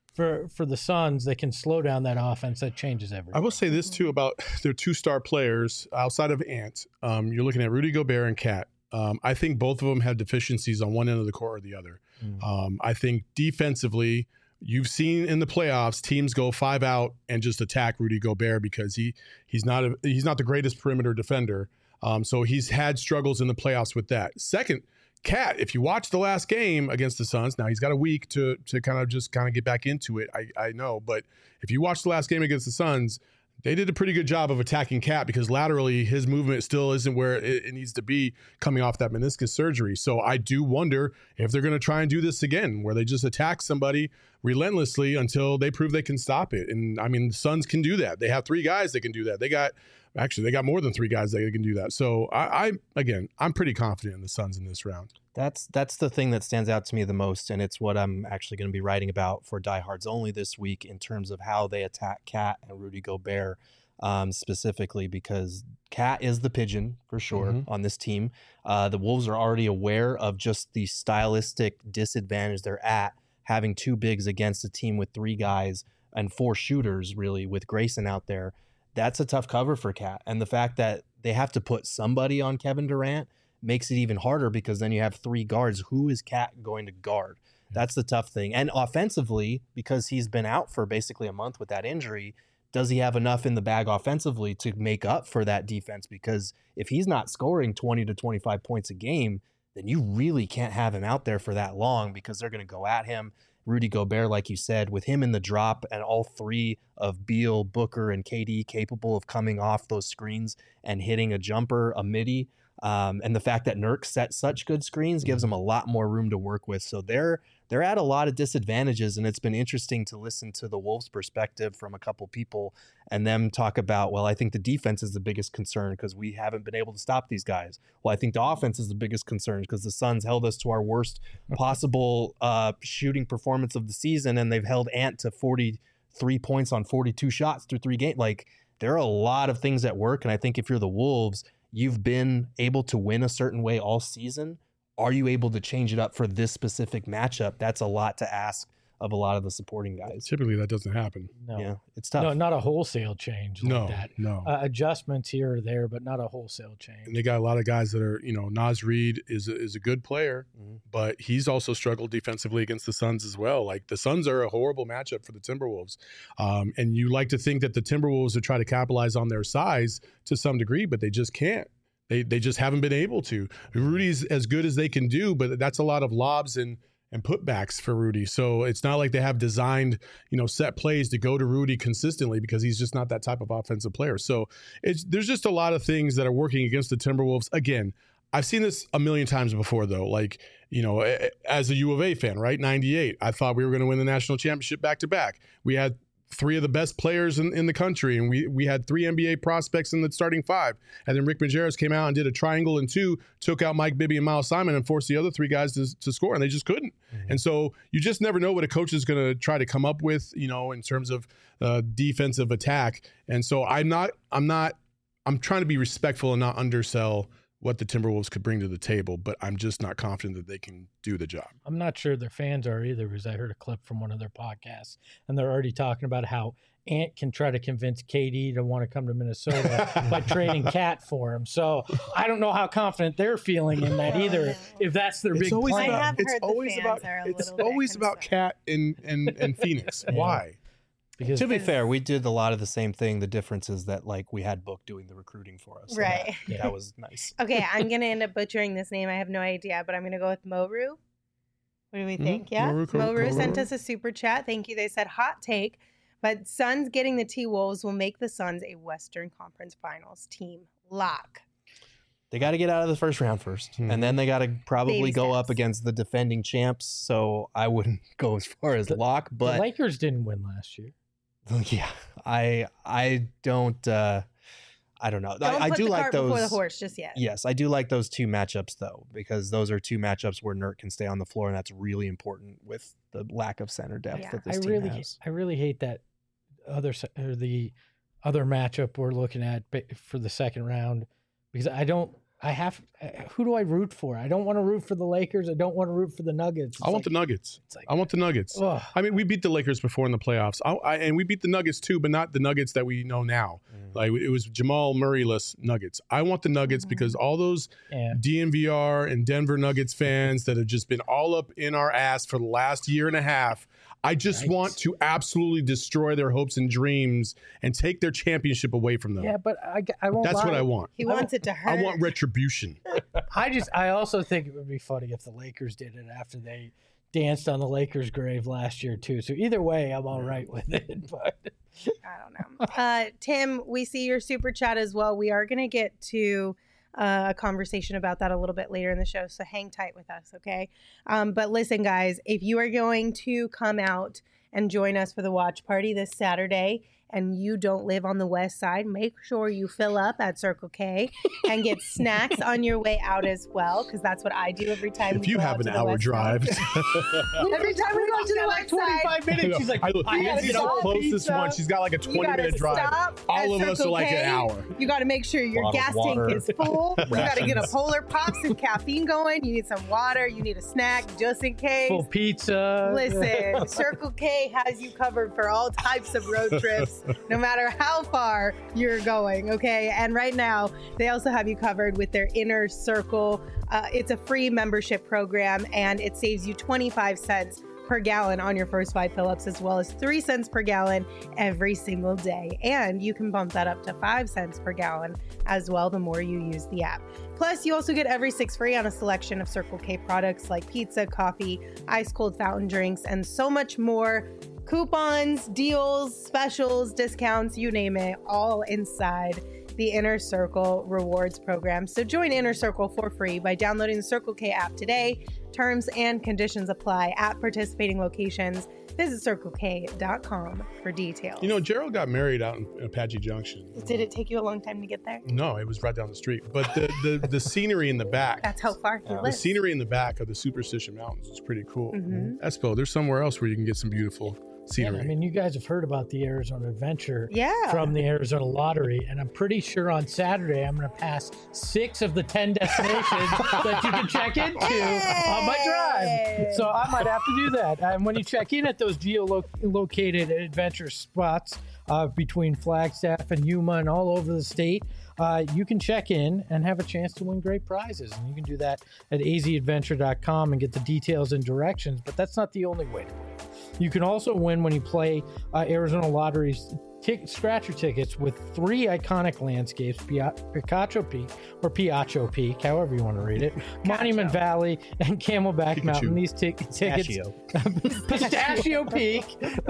for for the Suns, they can slow down that offense. That changes everything. I will say this too about their two star players outside of Ant. Um, you're looking at Rudy Gobert and Cat. Um, I think both of them have deficiencies on one end of the court or the other. Mm. Um, I think defensively, you've seen in the playoffs teams go five out and just attack Rudy Gobert because he he's not a, he's not the greatest perimeter defender. Um, so he's had struggles in the playoffs with that. Second, Cat, if you watch the last game against the Suns, now he's got a week to to kind of just kind of get back into it. I, I know, but if you watch the last game against the Suns, they did a pretty good job of attacking Cat because laterally his movement still isn't where it, it needs to be coming off that meniscus surgery. So I do wonder if they're going to try and do this again, where they just attack somebody relentlessly until they prove they can stop it. And I mean, the Suns can do that. They have three guys that can do that. They got actually they got more than three guys that can do that. So I, I again, I'm pretty confident in the Suns in this round. That's that's the thing that stands out to me the most, and it's what I'm actually going to be writing about for Diehards Only this week in terms of how they attack Cat and Rudy Gobert um, specifically, because Cat is the pigeon for sure mm-hmm. on this team. Uh, the Wolves are already aware of just the stylistic disadvantage they're at having two bigs against a team with three guys and four shooters, really, with Grayson out there. That's a tough cover for Cat, and the fact that they have to put somebody on Kevin Durant makes it even harder because then you have three guards. Who is Cat going to guard? That's the tough thing. And offensively, because he's been out for basically a month with that injury, does he have enough in the bag offensively to make up for that defense? Because if he's not scoring twenty to twenty-five points a game, then you really can't have him out there for that long because they're going to go at him. Rudy Gobert, like you said, with him in the drop and all three of Beal, Booker, and K D capable of coming off those screens and hitting a jumper, a midi, Um, and the fact that Nurk set such good screens gives them a lot more room to work with. So they're they're at a lot of disadvantages, and it's been interesting to listen to the Wolves' perspective from a couple people and them talk about, well, I think the defense is the biggest concern because we haven't been able to stop these guys. Well, I think the offense is the biggest concern because the Suns held us to our worst possible uh, shooting performance of the season, and they've held Ant to forty-three points on forty-two shots through three games. Like, there are a lot of things at work, and I think if you're the Wolves, you've been able to win a certain way all season. Are you able to change it up for this specific matchup? That's a lot to ask of a lot of the supporting guys. Typically, that doesn't happen. No, yeah, it's tough. No, not a wholesale change like no, that. No, uh, adjustments here or there, but not a wholesale change. And they got a lot of guys that are, you know, Naz Reid is a, is a good player, mm-hmm. but he's also struggled defensively against the Suns as well. Like, the Suns are a horrible matchup for the Timberwolves. Um, and you like to think that the Timberwolves would try to capitalize on their size to some degree, but they just can't. They they just haven't been able to. Rudy's as good as they can do, but that's a lot of lobs and and putbacks for Rudy. So it's not like they have designed, you know, set plays to go to Rudy consistently because he's just not that type of offensive player. So it's there's just a lot of things that are working against the Timberwolves. Again, I've seen this a million times before, though. Like, you know, as a U of A fan, right? ninety-eight, I thought we were going to win the national championship back to back. We had three of the best players in, in the country, and we we had three N B A prospects in the starting five. And then Rick Majerus came out and did a triangle and two, took out Mike Bibby and Miles Simon and forced the other three guys to, to score, and they just couldn't. Mm-hmm. And so you just never know what a coach is going to try to come up with, you know, in terms of uh, defensive attack. And so I'm not, I'm not, I'm trying to be respectful and not undersell what the Timberwolves could bring to the table, but I'm just not confident that they can do the job. I'm not sure their fans are either, because I heard a clip from one of their podcasts, and they're already talking about how Ant can try to convince K D to want to come to Minnesota by trading Cat for him. So I don't know how confident they're feeling in that either, if that's their it's big always plan. About, I have it's heard the always fans about, are a it's little bit always about Cat and, and, and Phoenix. Yeah. Why? Because to be fair, we did a lot of the same thing. The difference is that, like, we had Book doing the recruiting for us. So Right. That, that was nice. Okay, I'm going to end up butchering this name. I have no idea, but I'm going to go with Moru. What do we think? Mm, Yeah? Moru, Moru Moru. sent us a super chat. Thank you. They said, hot take, but Suns getting the T-Wolves will make the Suns a Western Conference Finals team. Lock. They got to get out of the first round first, Hmm. and then they got to probably Baby go steps. up against the defending champs. So I wouldn't go as far as The- lock, the but Lakers didn't win last year. yeah, I I don't uh, I don't know. Don't I, I put do the like cart those. before the horse just yet. Yes, I do like those two matchups though, because those are two matchups where Nurk can stay on the floor, and that's really important with the lack of center depth Yeah. that this I team really, has. I really hate that other se- or the other matchup we're looking at ba- for the second round, because I don't, I have. Who do I root for? I don't want to root for the Lakers. I don't want to root for the Nuggets. It's I want like, the Nuggets. like, I want the Nuggets. Ugh. I mean, we beat the Lakers before in the playoffs, I, I, and we beat the Nuggets too, but not the Nuggets that we know now. Mm. Like it was Jamal Murray-less Nuggets. I want the Nuggets mm-hmm. because all those yeah. D N V R and Denver Nuggets fans that have just been all up in our ass for the last year and a half. I just right. want to absolutely destroy their hopes and dreams and take their championship away from them. Yeah, but I, I won't. That's lie. what I want. He wants it to hurt. I want retribution. I just, I also think it would be funny if the Lakers did it after they danced on the Lakers' grave last year too. So either way, I'm all right with it. But I don't know. Uh, Tim, we see your super chat as well. We are going to get to uh, a conversation about that a little bit later in the show. So hang tight with us, okay? Um, but listen, guys, if you are going to come out and join us for the watch party this Saturday, and you don't live on the west side, make sure you fill up at Circle K and get snacks on your way out as well, because that's what I do every time if we you go have out an to the hour west drive. Every time we go to the like west side, twenty-five minutes. She's like, I, look, I Lindsay's the closest pizza. one. She's got like a twenty minute drive. All of us are like an hour. You got to make sure your Bottle gas water. tank is full. You got to get a Polar Pop, some caffeine going. You need some water. You need a snack just in case. Full pizza. Listen, Circle K has you covered for all types of road trips, no matter how far you're going, okay? And right now, they also have you covered with their Inner Circle. Uh, it's a free membership program, and it saves you twenty-five cents per gallon on your first five fill-ups, as well as three cents per gallon every single day. And you can bump that up to five cents per gallon as well the more you use the app. Plus, you also get every six free on a selection of Circle K products like pizza, coffee, ice cold fountain drinks, and so much more. Coupons, deals, specials, discounts, you name it, all inside the Inner Circle rewards program. So join Inner Circle for free by downloading the Circle K app today. Terms and conditions apply at participating locations. Visit circle k dot com for details. You know, Gerald got married out in Apache Junction. Did it take you a long time to get there? No, it was right down the street. But the the, the scenery in the back. That's how far he uh, lives. The scenery in the back of the Superstition Mountains is pretty cool. Mm-hmm. Espo, there's somewhere else where you can get some beautiful scenery. Yeah, I mean, you guys have heard about the Arizona Adventure yeah. from the Arizona Lottery, and I'm pretty sure on Saturday I'm going to pass six of the ten destinations that you can check into hey! on my drive. So I might have to do that. And when you check in at those geolocated adventure spots uh, between Flagstaff and Yuma and all over the state, Uh, you can check in and have a chance to win great prizes. And you can do that at a z adventure dot com and get the details and directions. But that's not the only way to win. You can also win when you play uh, Arizona Lottery's t- scratcher tickets with three iconic landscapes, Pia- Picacho Peak or Piacho Peak, however you want to read it, Monument Valley, and Camelback Pikachu. Mountain. These t- tickets, Pistachio Peak,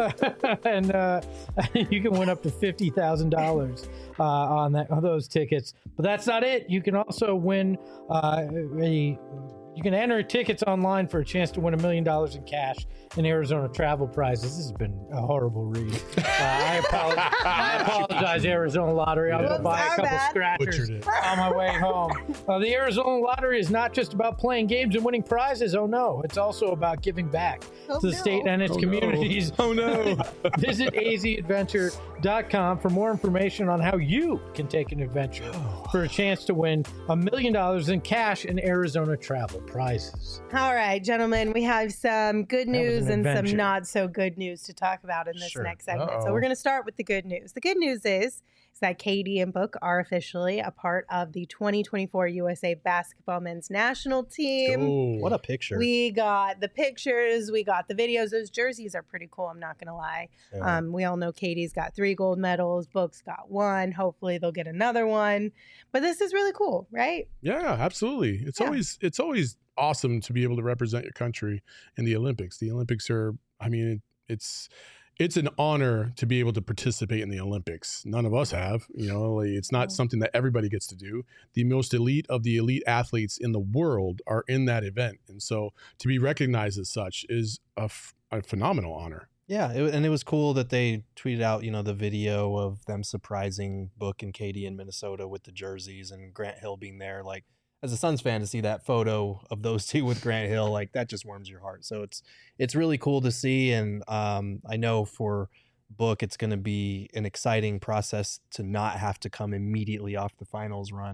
and uh, you can win up to fifty thousand dollars uh, on that on those tickets. But that's not it. You can also win uh, a. You can enter tickets online for a chance to win a million dollars in cash and Arizona travel prizes. This has been a horrible read. Uh, I, apologize, I apologize, Arizona Lottery. I'm going to buy a couple scratchers on my way home. Uh, the Arizona Lottery is not just about playing games and winning prizes. Oh, no. It's also about giving back oh, to the no. state and its oh, communities. No. Oh, no. Visit a z adventure dot com for more information on how you can take an adventure for a chance to win a million dollars in cash and Arizona travel prizes. All right, gentlemen, we have some good news an and some adventure. not so good news to talk about in this Sure. next segment. Uh-oh. So we're going to start with the good news. The good news is, is that Katie and Book are officially a part of the twenty twenty-four U S A Basketball Men's National Team. Oh. What a picture. We got the pictures, we got the videos. Those jerseys are pretty cool, I'm not going to lie. Yeah. Um, we all know Katie's got three gold medals, Book's got one. Hopefully they'll get another one. But this is really cool, right? Yeah, absolutely. It's Yeah. always it's always awesome to be able to represent your country in the Olympics. The Olympics are, I mean, it, it's it's an honor to be able to participate in the Olympics. None of us have, you know, like, it's not something that everybody gets to do. The most elite of the elite athletes in the world are in that event. And so to be recognized as such is a, f- a phenomenal honor. Yeah, it, and it was cool that they tweeted out, you know, the video of them surprising Book and Katie in Minnesota with the jerseys and Grant Hill being there. Like, as a Suns fan, to see that photo of those two with Grant Hill, like that just warms your heart. So it's it's really cool to see, and um, I know for Book, it's going to be an exciting process to not have to come immediately off the finals run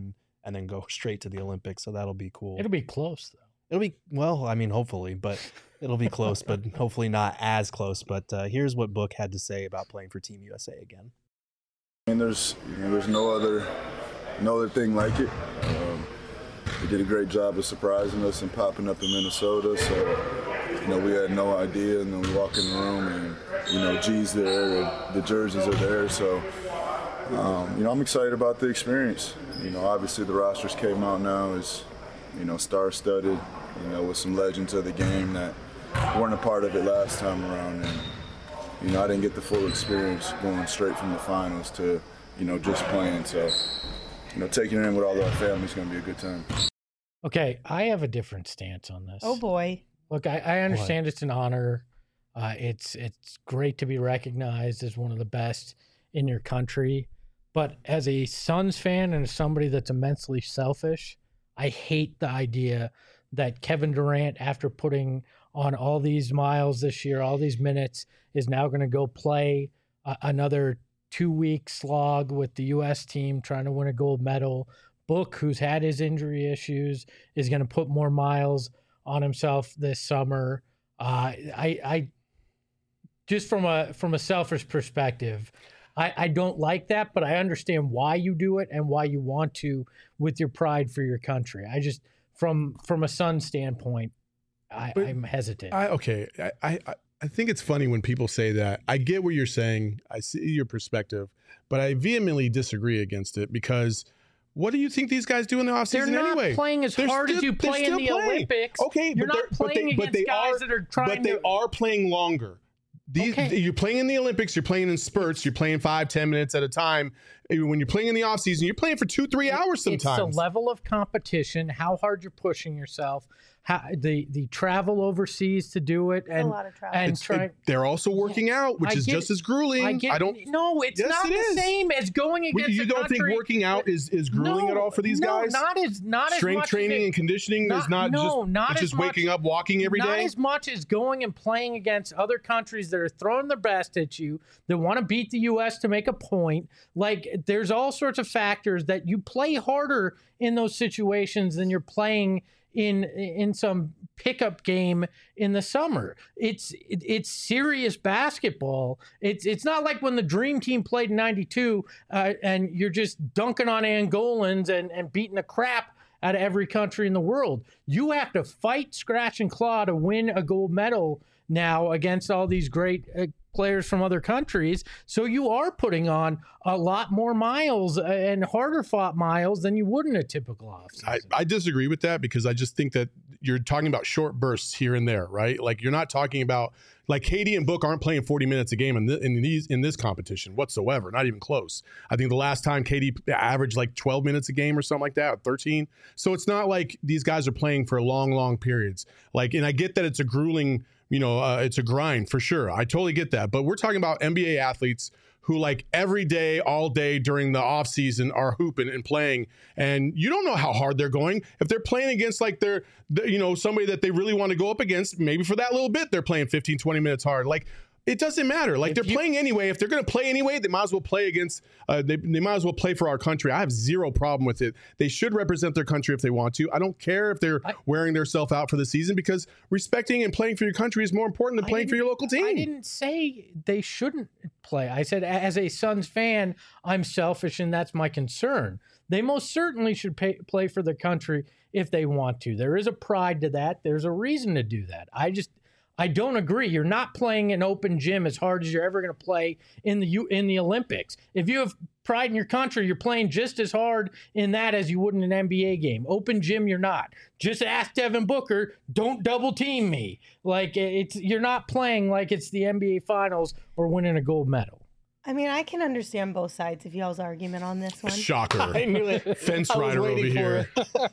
and then go straight to the Olympics. So that'll be cool. It'll be close though. It'll be, well, I mean, hopefully, but it'll be close, but hopefully not as close. But uh, here's what Book had to say about playing for Team U S A again. I mean, there's you know, there's no other no other thing like it. Um, they did a great job of surprising us and popping up in Minnesota. So, you know, we had no idea, and then we walk in the room, and you know, G's there, and the jerseys are there. So, um, you know, I'm excited about the experience. You know, obviously the rosters came out now is, you know, star-studded, you know, with some legends of the game that weren't a part of it last time around. And, you know, I didn't get the full experience going straight from the finals to, you know, just playing. So, you know, taking it in with all our family is going to be a good time. Okay, I have a different stance on this. Oh, boy. Look, I, I understand what? It's an honor. Uh, it's it's great to be recognized as one of the best in your country. But as a Suns fan and as somebody that's immensely selfish, I hate the idea that Kevin Durant, after putting on all these miles this year, all these minutes, is now going to go play uh, another two-week slog with the U S team trying to win a gold medal. Book, who's had his injury issues, is going to put more miles on himself this summer. Uh, I, I just from a from a selfish perspective, I, I don't like that, but I understand why you do it and why you want to with your pride for your country. I just, from from a Sun standpoint, I, I'm hesitant. I, okay, I, I I think it's funny when people say that. I get what you're saying. I see your perspective, but I vehemently disagree against it because what do you think these guys do in the offseason They're not anyway? playing as They're hard still, as you play in the playing. Olympics. Okay, you're but not but playing they, against but they guys are, that are trying but they to. are playing longer. These, Okay. You're playing in the Olympics. You're playing in spurts. You're playing five, ten minutes at a time. When you're playing in the off season, you're playing for two, three hours sometimes. It's the level of competition, how hard you're pushing yourself, how the the travel overseas to do it, and a lot of travel. and It's- try. it- they're also working out, which I is get just it. as grueling. I get. don't. No, it's Yes, not it the is. same as going against. You a don't think country working out is is grueling no, at all for these no, guys? not as not as Strength much training as it, and conditioning not, is not no, just not it's as just waking much, up, walking every not day. as much as going and playing against other countries that are throwing their best at you, that want to beat the U S to make a point. Like, there's all sorts of factors that you play harder in those situations than you're playing in in some pickup game in the summer. It's it, it's serious basketball. It's it's not like when the Dream Team played in ninety-two uh, and you're just dunking on Angolans and, and beating the crap out of every country in the world. You have to fight, scratch, and claw to win a gold medal now against all these great uh, players from other countries. So you are putting on a lot more miles and harder fought miles than you would in a typical offseason. I, I disagree with that because I just think that you're talking about short bursts here and there, right? Like you're not talking about like K D and Book aren't playing forty minutes a game in, th- in these in this competition whatsoever, not even close. I think the last time K D averaged like twelve minutes a game or something like that, or thirteen. So it's not like these guys are playing for long, long periods. Like, and I get that it's a grueling, you know, uh, it's a grind for sure. I totally get that. But we're talking about N B A athletes who like every day, all day during the off season are hooping and playing. And you don't know how hard they're going. If they're playing against like they're, you know, somebody that they really want to go up against, maybe for that little bit, they're playing fifteen, twenty minutes hard. Like, it doesn't matter. Like, If they're you- playing anyway. If they're going to play anyway, they might as well play against, uh, they, they might as well play for our country. I have zero problem with it. They should represent their country if they want to. I don't care if they're I- wearing themselves out for the season because respecting and playing for your country is more important than I playing for didn't- your local team. I didn't say they shouldn't play. I said, as a Suns fan, I'm selfish, and that's my concern. They most certainly should pay, play for their country if they want to. There is a pride to that. There's a reason to do that. I just, I don't agree. You're not playing an open gym as hard as you're ever going to play in the U, in the Olympics. If you have pride in your country, you're playing just as hard in that as you would in an N B A game. Open gym, you're not. Just ask Devin Booker, don't double team me. Like, it's you're not playing like it's the N B A Finals or winning a gold medal. I mean, I can understand both sides of y'all's argument on this one. Shocker. I knew it. Fence I was rider over waiting for here.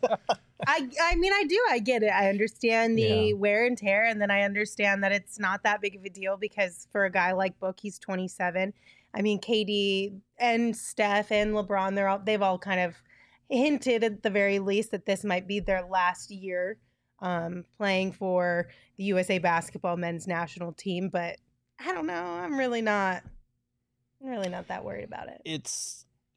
I I mean, I do. I get it. I understand the Yeah. wear and tear, and then I understand that it's not that big of a deal because for a guy like Book, he's twenty-seven. I mean, K D and Steph and LeBron, they're all they've all kind of hinted at the very least that this might be their last year um, playing for the U S A basketball men's national team. But I don't know. I'm really not. I'm really not that worried about it. It's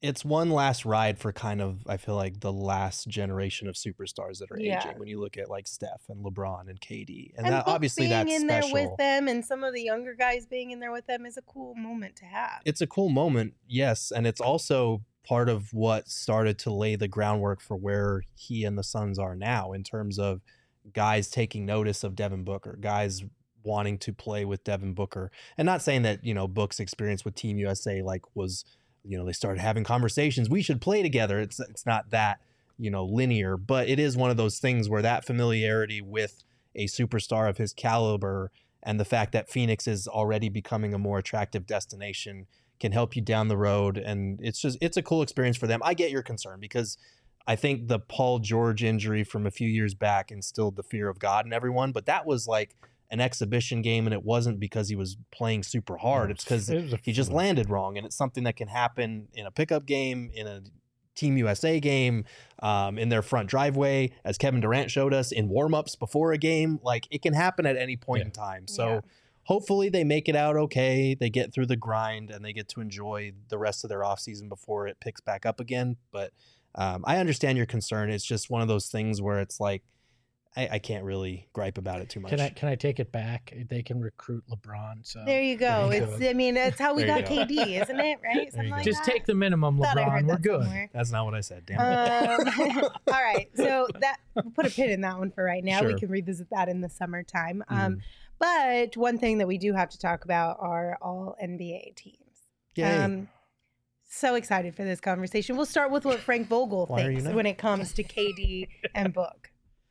it's one last ride for kind of, I feel like, the last generation of superstars that are Yeah. aging. When you look at like Steph and LeBron and K D, and, And that, Book obviously being that's in special. there with them, and some of the younger guys being in there with them is a cool moment to have. It's a cool moment, yes, and it's also part of what started to lay the groundwork for where he and the Suns are now in terms of guys taking notice of Devin Booker, guys wanting to play with Devin Booker, and not saying that, you know, Book's experience with Team U S A like was, you know, they started having conversations, we should play together. It's it's not that, you know, linear, but it is one of those things where that familiarity with a superstar of his caliber and the fact that Phoenix is already becoming a more attractive destination can help you down the road. And it's just, it's a cool experience for them. I get your concern because I think the Paul George injury from a few years back instilled the fear of God in everyone, but that was like an exhibition game, and it wasn't because he was playing super hard. It's because he just landed wrong, and it's something that can happen in a pickup game, in a Team U S A game, um, in their front driveway, as Kevin Durant showed us in warmups before a game. Like, it can happen at any point Yeah. in time. So Yeah. hopefully they make it out okay. They get through the grind and they get to enjoy the rest of their offseason before it picks back up again. But um, I understand your concern. It's just one of those things where it's like, I, I can't really gripe about it too much. Can I can I take it back? They can recruit LeBron. So There you go. There you It's go. I mean, that's how we There you got go. K D, isn't it? Right? Something you like go. just that. take the minimum, Thought I LeBron. heard We're that good. somewhere. That's not what I said. Damn it. Um, all right, so that we'll put a pin in that one for right now. We Sure. can revisit that in the summertime. Um, Mhm. but one thing that we do have to talk about are all N B A teams. Yay. Um, so excited for this conversation. We'll start with what Frank Vogel Why are you thinks not? when it comes to K D and Book.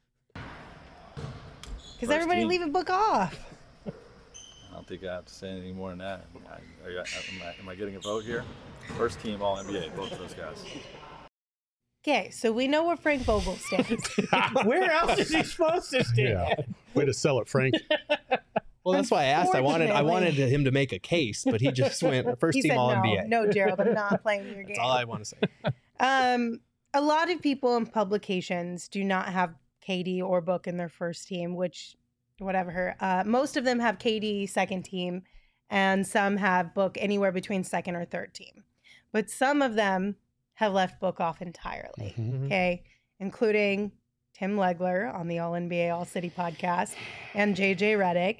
Because First everybody team. leaving Book off. I don't think I have to say anything more than that. I, are you, am, I, am I getting a vote here? First team All N B A, both of those guys. Okay, so we know where Frank Vogel stands. Where else is he supposed to stand? Yeah. Way to sell it, Frank. Well, that's why I asked. I wanted I wanted Unfortunately. him to make a case, but he just went first he team said, All no, N B A. no, Gerald, I'm not playing your game. That's all I want to say. Um, a lot of people in publications do not have K D or Book in their first team, which, whatever. Uh, most of them have K D second team, and some have Book anywhere between second or third team. But some of them have left Book off entirely. Mhm. Okay, including Tim Legler on the All N B A All City podcast and J J Redick.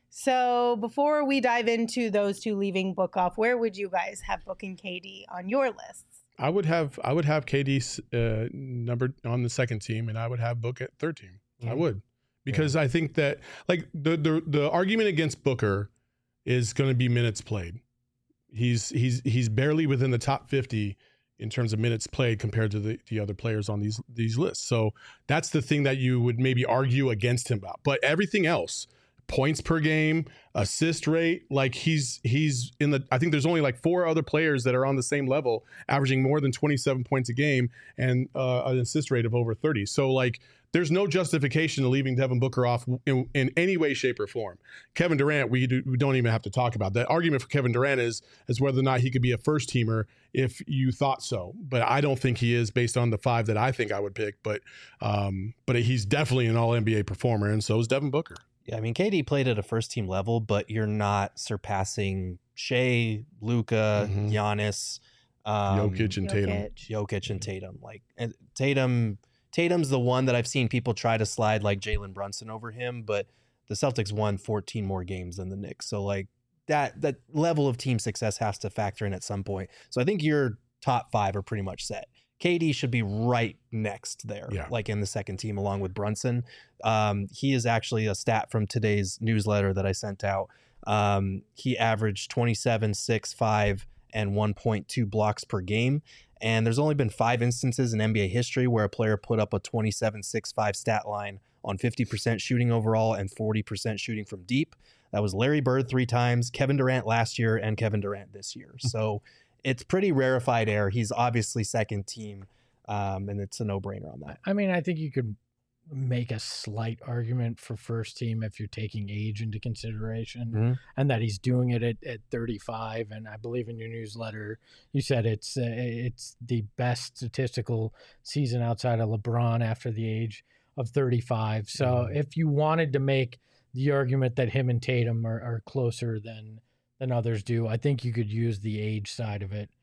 So before we dive into those two leaving Book off, where would you guys have Book and K D on your lists? I would have I would have K D uh, numbered on the second team, and I would have Book at third team. I Mhm. would, because I think that like the the the argument against Booker is going to be minutes played. He's he's he's barely within the top fifty in terms of minutes played compared to the, the other players on these these lists. So that's the thing that you would maybe argue against him about. But everything else, points per game, assist rate, like he's he's in the I think there's only like four other players that are on the same level, averaging more than twenty-seven points a game and uh, an assist rate of over thirty. So like there's no justification to leaving Devin Booker off in, in any way, shape, or form. Kevin Durant, we, do, we don't even have to talk about. The argument for Kevin Durant is is whether or not he could be a first teamer if you thought so. But I don't think he is based on the five that I think I would pick. But um, but he's definitely an All N B A performer, and so is Devin Booker. Yeah, I mean, K D played at a first team level, but you're not surpassing Shea, Luka, Mhm. Giannis, um, Jokic and Tatum. Jokic. Jokic and Tatum. Like and Tatum, Tatum's the one that I've seen people try to slide like Jalen Brunson over him, but the Celtics won fourteen more games than the Knicks. So like that that level of team success has to factor in at some point. So I think your top five are pretty much set. K D should be right next there, Yeah. like in the second team along with Brunson. Um, he is actually a stat from today's newsletter that I sent out. Um, he averaged twenty-seven, six, five, and one point two blocks per game. And there's only been five instances in N B A history where a player put up a twenty-seven, six, five stat line on fifty percent shooting overall and forty percent shooting from deep. That was Larry Bird three times, Kevin Durant last year, and Kevin Durant this year. So it's pretty rarefied air. He's obviously second team, um, and it's a no-brainer on that. I mean, I think you could make a slight argument for first team if you're taking age into consideration, Mhm. and that he's doing it at, at thirty-five. And I believe in your newsletter you said it's uh, it's the best statistical season outside of LeBron after the age of thirty-five. So Mhm. if you wanted to make the argument that him and Tatum are, are closer than than others do, I think you could use the age side of it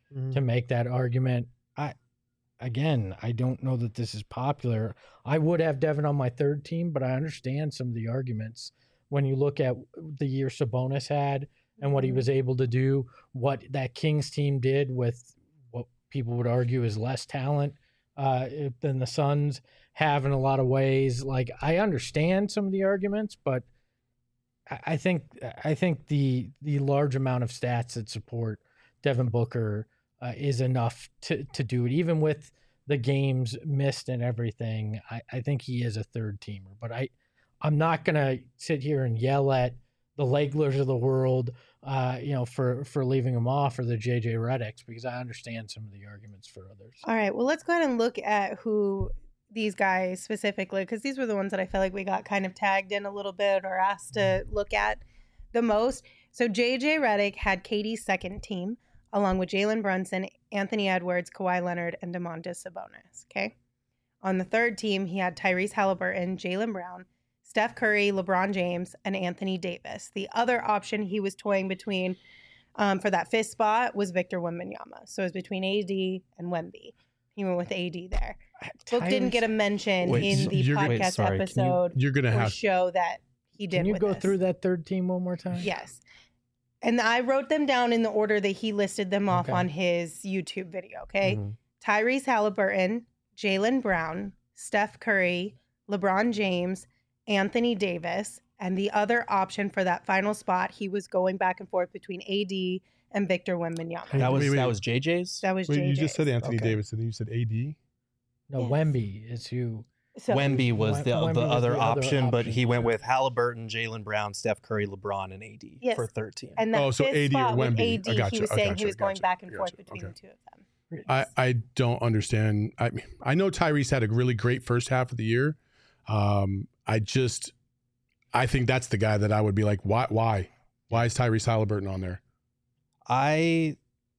mm-hmm. to make that argument. I, again, I don't know that this is popular. I would have Devin on my third team, but I understand some of the arguments when you look at the year Sabonis had and what he was able to do, what that Kings team did with what people would argue is less talent uh, than the Suns have in a lot of ways. Like, I understand some of the arguments, but I think I think the the large amount of stats that support Devin Booker uh, is enough to, to do it, even with the games missed and everything. I, I think he is a third teamer, but I I'm not gonna sit here and yell at the Laglers of the world, uh, you know, for for leaving him off, or the J J Redicks, because I understand some of the arguments for others. All right, well, let's go ahead and look at who these guys specifically, because these were the ones that I feel like we got kind of tagged in a little bit or asked to look at the most. So J J Redick had K D's second team, along with Jalen Brunson, Anthony Edwards, Kawhi Leonard, and Domantas Sabonis. Okay. On the third team, he had Tyrese Halliburton, Jaylen Brown, Steph Curry, LeBron James, and Anthony Davis. The other option he was toying between um, for that fifth spot was Victor Wembanyama. So it was between A D and Wemby. He went with A D there. Book didn't get a mention Wait, in the you're- podcast wait, sorry, can you- episode You're gonna or have show that he did. Can you with go this. through that third team one more time? Yes. And I wrote them down in the order that he listed them off Okay. on his YouTube video. Okay. Mhm. Tyrese Halliburton, Jaylen Brown, Steph Curry, LeBron James, Anthony Davis, and the other option for that final spot, he was going back and forth between A D and Victor Wembanyama. Hey, That was wait, wait. that was J J's. That was Wait, J J's. you just said Anthony Okay. Davis, and then you said A D. No, Yes. Wemby is who. So, Wemby was Wem- the Wemby the was other the other option, but option. he went with Halliburton, Jaylen Brown, Steph Curry, LeBron, and A D Yes. for third team. and that Oh, so fifth A D or spot with Wemby. A I D, gotcha, he was I saying gotcha, he was going gotcha, back and forth gotcha, between okay. the two of them. I, I don't understand. I I know Tyrese had a really great first half of the year. Um, I just I think that's the guy that I would be like, why why why is Tyrese Halliburton on there? I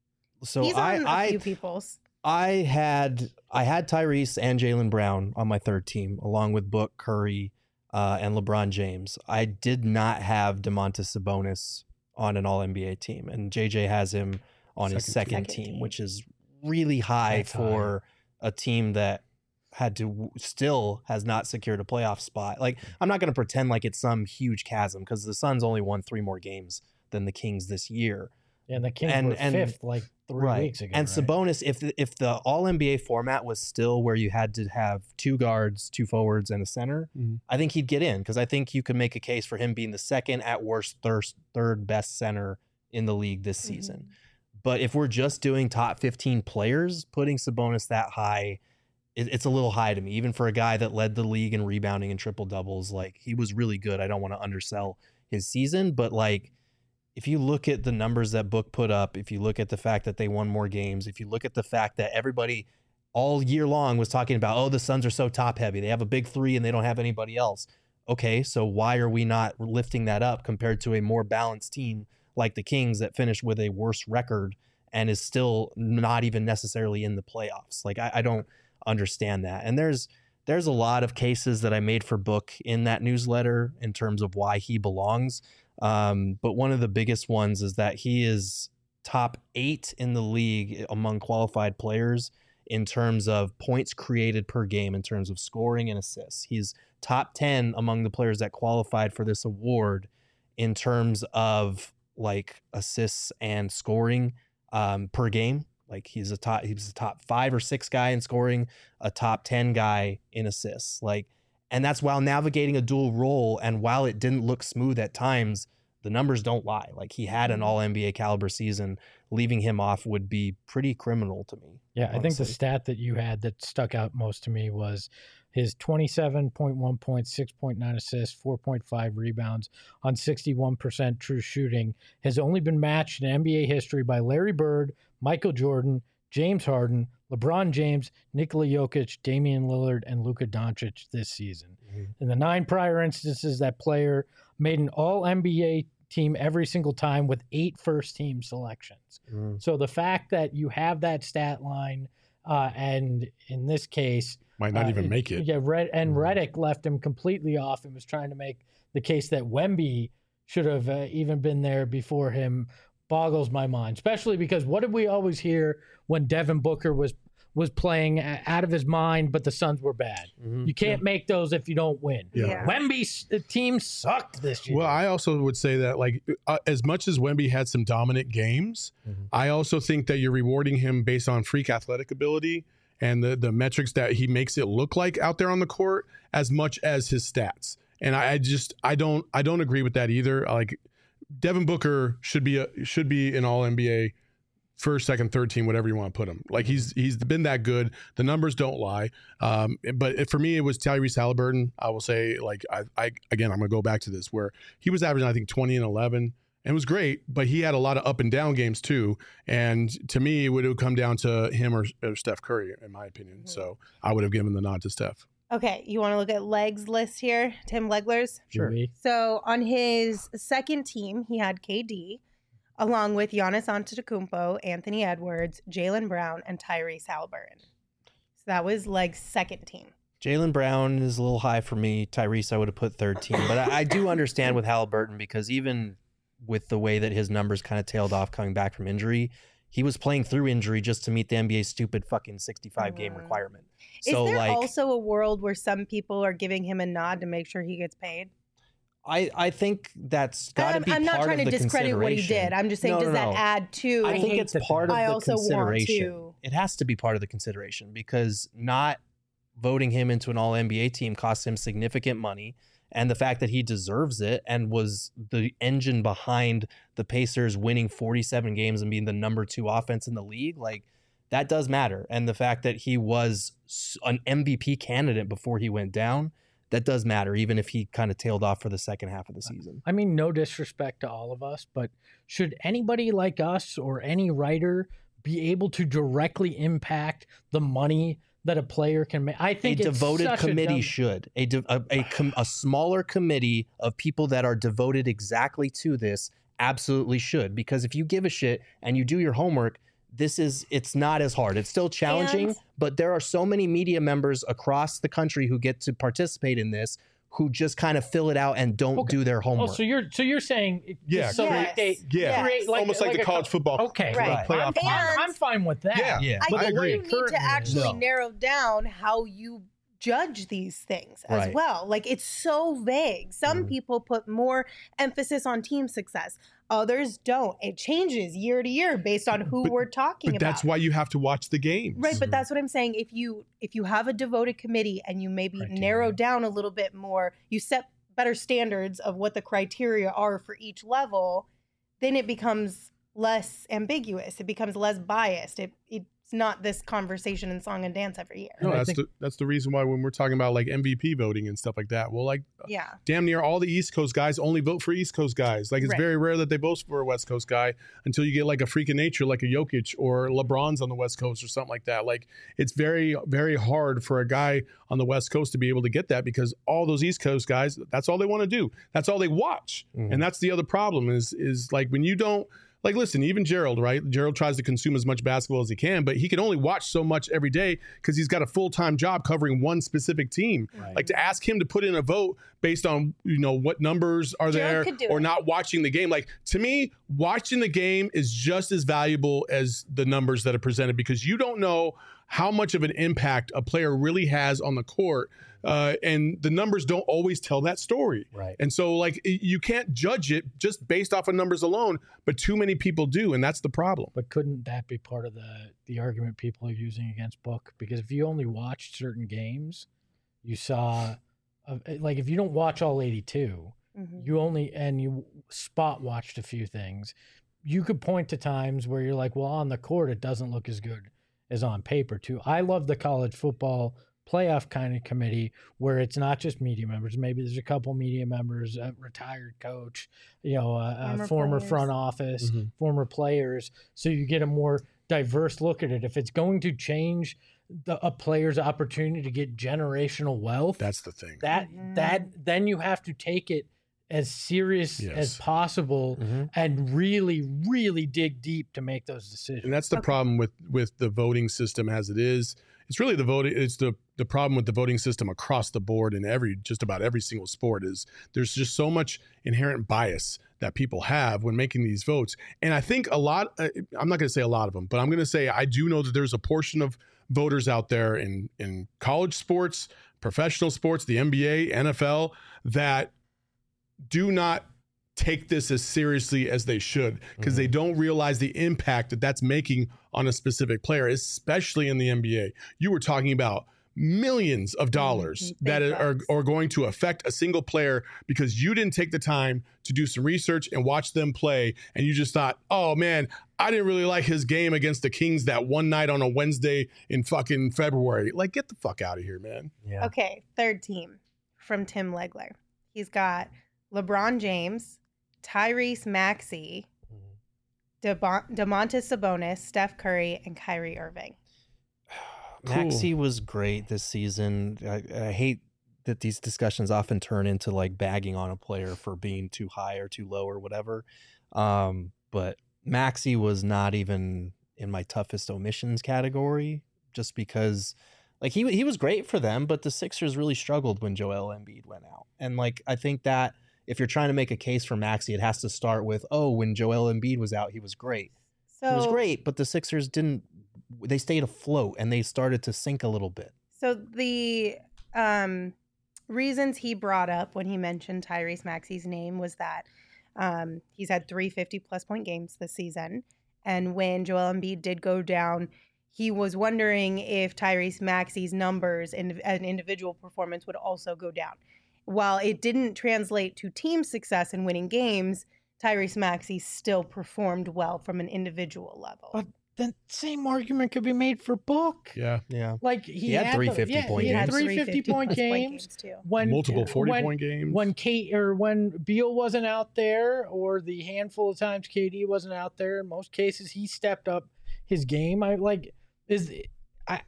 so He's I on a I few people's. I had I had Tyrese and Jaylen Brown on my third team, along with Book, Curry, uh, and LeBron James. I did not have Domantas Sabonis on an All N B A team, and J J has him on his Second second team. team, which is really high That's for a team that had to still has not secured a playoff spot. Like, I'm not going to pretend like it's some huge chasm, because the Suns only won three more games than the Kings this year. And the Kings And- were and- fifth like three weeks ago. And right? Sabonis, if the, if the All N B A format was still where you had to have two guards, two forwards, and a center, Mhm. I think he'd get in, because I think you could make a case for him being the second at worst third, third best center in the league this Mm-hmm. season. But if we're just doing top fifteen players, putting Sabonis that high, it, it's a little high to me, even for a guy that led the league in rebounding and triple doubles. Like, he was really good. I don't want to undersell his season, but like, if you look at the numbers that Book put up, if you look at the fact that they won more games, if you look at the fact that everybody all year long was talking about, oh, the Suns are so top heavy, they have a big three and they don't have anybody else. Okay, so why are we not lifting that up compared to a more balanced team like the Kings that finished with a worse record and is still not even necessarily in the playoffs? Like, I, I don't understand that. And there's there's a lot of cases that I made for Book in that newsletter in terms of why he belongs. Um, but one of the biggest ones is that he is top eight in the league among qualified players in terms of points created per game, in terms of scoring and assists. He's top ten among the players that qualified for this award in terms of like assists and scoring um, per game. Like, he's a top, he's a top five or six guy in scoring, a top ten guy in assists. Like, and that's while navigating a dual role. And while it didn't look smooth at times, the numbers don't lie. Like, he had an all N B A caliber season. Leaving him off would be pretty criminal to me. Yeah, I think the honestly. stat that you had that stuck out most to me was his twenty-seven point one points, six point nine assists, four point five rebounds on sixty-one percent true shooting has only been matched in N B A history by Larry Bird, Michael Jordan, James Harden, LeBron James, Nikola Jokic, Damian Lillard, and Luka Doncic this season. Mm-hmm. In the nine prior instances, that player made an all N B A team every single time with eight first team selections. Mm. So the fact that you have that stat line, uh, and in this case, Might not uh, even make it. Yeah, Red and Mm. Redick left him completely off and was trying to make the case that Wemby should have uh, even been there before him. boggles my mind, especially because what did we always hear when Devin Booker was was playing a- out of his mind, but the Suns were bad? Mhm. You can't make those if you don't win. Yeah. Yeah. Wemby's the team sucked this year. Well, I also would say that, like, uh, as much as Wemby had some dominant games, Mhm. I also think that you're rewarding him based on freak athletic ability and the the metrics that he makes it look like out there on the court, as much as his stats. And I, I just I don't I don't agree with that either. Like, Devin Booker should be a should be an All N B A. First, second, third team, whatever you want to put him. Like, he's he's been that good. The numbers don't lie. Um, but it- for me, it was Tyrese Halliburton. I will say, like, I, I again, I'm gonna go back to this where he was averaging, I think, twenty and eleven, and it was great. But he had a lot of up and down games too. And to me, it would have come down to him or, or Steph Curry, in my opinion. Mhm. So I would have given the nod to Steph. Okay, you want to look at Legs list here, Tim Legler's. Sure. We- So on his second team, he had K D, along with Giannis Antetokounmpo, Anthony Edwards, Jaylen Brown, and Tyrese Halliburton. So that was Leg's second team. Jaylen Brown is a little high for me. Tyrese, I would have put third team, but I, I do understand with Halliburton because even with the way that his numbers kind of tailed off coming back from injury, he was playing through injury just to meet the N B A's stupid fucking sixty-five game Mhm. requirement. Is So there like, also a world where some people are giving him a nod to make sure he gets paid? I I think that's got to I'm, be I'm part not trying of to the discredit what he consideration. did. I'm just saying, No, does no, that no. add to? I think hate it's that part of I the also want consideration. to- It has to be part of the consideration because not voting him into an All N B A team costs him significant money, and the fact that he deserves it and was the engine behind the Pacers winning forty-seven games and being the number two offense in the league, like that does matter. And the fact that he was s- an M V P candidate before he went down, that does matter, even if he kind of tailed off for the second half of the season. I mean, no disrespect to all of us, but should anybody like us or any writer be able to directly impact the money that a player can make? I A think it's devoted such a committee dumb- should a de- a a, com- a smaller committee of people that are devoted exactly to this absolutely should, because if you give a shit and you do your homework, this is it's not as hard. It's still challenging, And- but there are so many media members across the country who get to participate in this who just kind of fill it out and don't Okay. do their Oh, homework. so you're so you're saying it- Yeah, so Yes. they Yeah, create almost like, the a college co- football Okay, Right. I'm, playoff. I'm, I'm fine with that. Yeah. yeah. I I think agree. you need Currently, to actually no. narrow down how you judge these things as Right. well. Like, it's so vague. Some Mhm. people put more emphasis on team success. Others don't. It changes year to year based on who But- we're talking But about. that's why you have to watch the games. Right, but Mhm. that's what I'm saying. If you if you have a devoted committee and you maybe Criteria. narrow down a little bit more, you set better standards of what the criteria are for each level, then it becomes less ambiguous. It becomes less biased. It it's not this conversation in song and dance every year. No, And I that's think- the that's the reason why when we're talking about like M V P voting and stuff like that, well, like Yeah. damn near all the East Coast guys only vote for East Coast guys. Like, it's Right. very rare that they vote for a West Coast guy until you get like a freak of nature, like a Jokic or LeBron's on the West Coast or something like that. Like, it's very, very hard for a guy on the West Coast to be able to get that because all those East Coast guys, that's all they want to do. That's all they watch. Mhm. And that's the other problem is, is like when you don't, like, listen, even Gerald, right? Gerald tries to consume as much basketball as he can, but he can only watch so much every day because he's got a full-time job covering one specific team. Right. Like, to ask him to put in a vote based on, you know, what numbers are Gerald there could do or it. not watching the game. Like, to me, watching the game is just as valuable as the numbers that are presented because you don't know how much of an impact a player really has on the court. Uh, and the numbers don't always tell that story. Right. And so, like, y- you can't judge it just based off of numbers alone, but too many people do, and that's the problem. But couldn't that be part of the the argument people are using against Book? Because if you only watched certain games, you saw, uh, like, if you don't watch all eighty-two, Mhm. you only and you spot watched a few things, you could point to times where you're like, well, on the court it doesn't look as good as on paper too. I love the college football playoff kind of committee where it's not just media members. Maybe there's a couple media members, a retired coach, you know, a, a Former former players. front office, Mhm. former players. So you get a more diverse look at it. If it's going to change the, a player's opportunity to get generational wealth, That's the thing. that Mhm. that then you have to take it as serious Yes. as possible Mhm. and really really dig deep to make those decisions. And that's the Okay. problem with with the voting system as it is. it's really the voting. It's the the problem with the voting system across the board in every just about every single sport is there's just so much inherent bias that people have when making these votes. And I think a lot. Uh, I'm not going to say a lot of them, but I'm going to say I do know that there's a portion of voters out there in in college sports, professional sports, the N B A, N F L that do not take this as seriously as they should because mm-hmm. they don't realize the impact that that's making on a specific player, especially in the N B A. You were talking about millions of dollars mm-hmm. that are, are going to affect a single player because you didn't take the time to do some research and watch them play. And you just thought, oh man, I didn't really like his game against the Kings that one night on a Wednesday in fucking February. Like, get the fuck out of here, man. Yeah. Okay. Third team from Tim Legler. He's got LeBron James, Tyrese Maxey, mm-hmm. Domantas Sabonis, Steph Curry, and Kyrie Irving. Maxey was great this season. I, I hate that these discussions often turn into like bagging on a player for being too high or too low or whatever. Um, but Maxey was not even in my toughest omissions category just because like he he was great for them, but the Sixers really struggled when Joel Embiid went out. And like I think that if you're trying to make a case for Maxey, it has to start with, oh, when Joel Embiid was out, he was great. So, he was great, but the Sixers didn't they stayed afloat and they started to sink a little bit. So the um, reasons he brought up when he mentioned Tyrese Maxey's name was that um, he's had three fifty-plus point games this season. And when Joel Embiid did go down, he was wondering if Tyrese Maxey's numbers in an individual performance would also go down. While it didn't translate to team success in winning games, Tyrese Maxey still performed well from an individual level. But the same argument could be made for Book. Yeah. Yeah. Like he, he had, had three fifty yeah, point he games. Had three fifty point games too. When multiple forty when, point games. When Kate or when Beal wasn't out there, or the handful of times K D wasn't out there, in most cases he stepped up his game. I like is I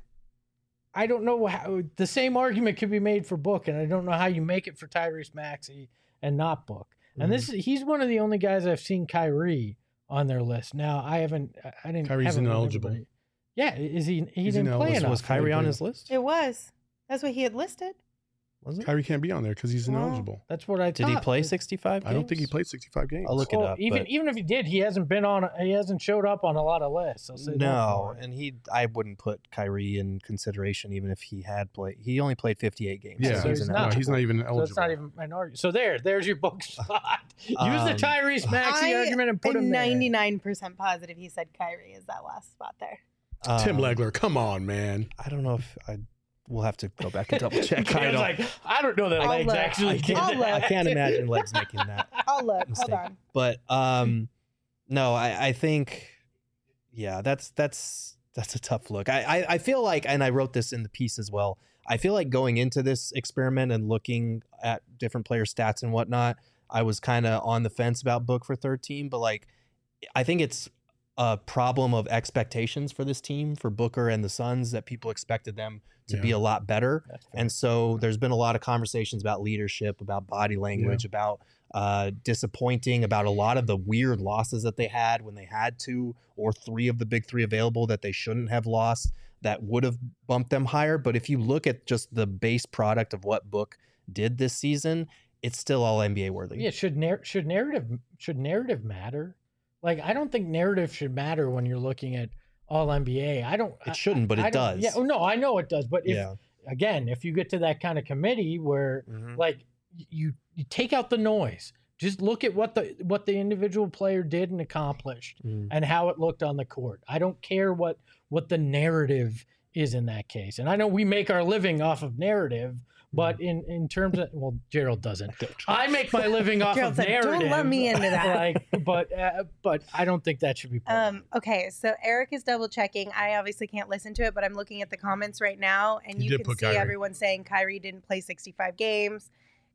I don't know how the same argument could be made for Book, and I don't know how you make it for Tyrese Maxey and not Book. Mm-hmm. And this he's one of the only guys I've seen Kyrie on their list. Now I haven't. I didn't. Kyrie's ineligible. Yeah, is he? He He's didn't play enough. Was Kyrie on his list? It was. That's what he had listed. Was it? Kyrie can't be on there because he's Well, ineligible. That's what I Did thought. he play sixty-five games? I don't think he played sixty-five games. I'll look Well, it up. even but even if he did, he hasn't been on. He hasn't showed up on a lot of lists. I'll say that no, for it. and he. I wouldn't put Kyrie in consideration even if he had played. He only played fifty-eight games. Yeah, So he's he's no, not. he's not even So eligible. it's not even an argument. So there, there's your Book spot. Use Um, the Tyrese Maxey I argument and put am him there. ninety-nine percent positive he said Kyrie is that last spot there. Tim um, Legler, come on, man. I don't know if I. We'll have to go back and double check. I I was don't. like, I don't know that I'll Legs look. actually I did can't, I'll that. I can't imagine Legs making that. I'll look. mistake. Hold on. But um, no, I, I think, yeah, that's that's that's a tough look. I, I I feel like, and I wrote this in the piece as well. I feel like going into this experiment and looking at different player stats and whatnot, I was kind of on the fence about Book for third team, but like, I think it's a problem of expectations for this team, for Booker and the Suns, that people expected them to Yeah. be a lot better. That's fair. And so there's been a lot of conversations about leadership, about body language, about uh, disappointing, about a lot of the weird losses that they had when they had two or three of the big three available that they shouldn't have lost that would have bumped them higher. But if you look at just the base product of what Book did this season, it's still all N B A worthy. Yeah, should nar- should narrative should narrative matter? Like, I don't think narrative should matter when you're looking at all N B A. I don't. It shouldn't, but I, it I don't- does. Yeah, oh, no, I know it does. But if Yeah. again, if you get to that kind of committee where Mhm. like you you take out the noise, just look at what the what the individual player did and accomplished, Mhm. and how it looked on the court. I don't care what what the narrative is in that case. And I know we make our living off of narrative, but in in terms of, well, Gerald doesn't. I make my living off Gerald of said, narrative. "Don't let me into that." Like, but uh, but I don't think that should be part of it. Um, okay, so Eric is double checking. I obviously can't listen to it, but I'm looking at the comments right now, and He you did can put see Kyrie. everyone saying Kyrie didn't play sixty-five games.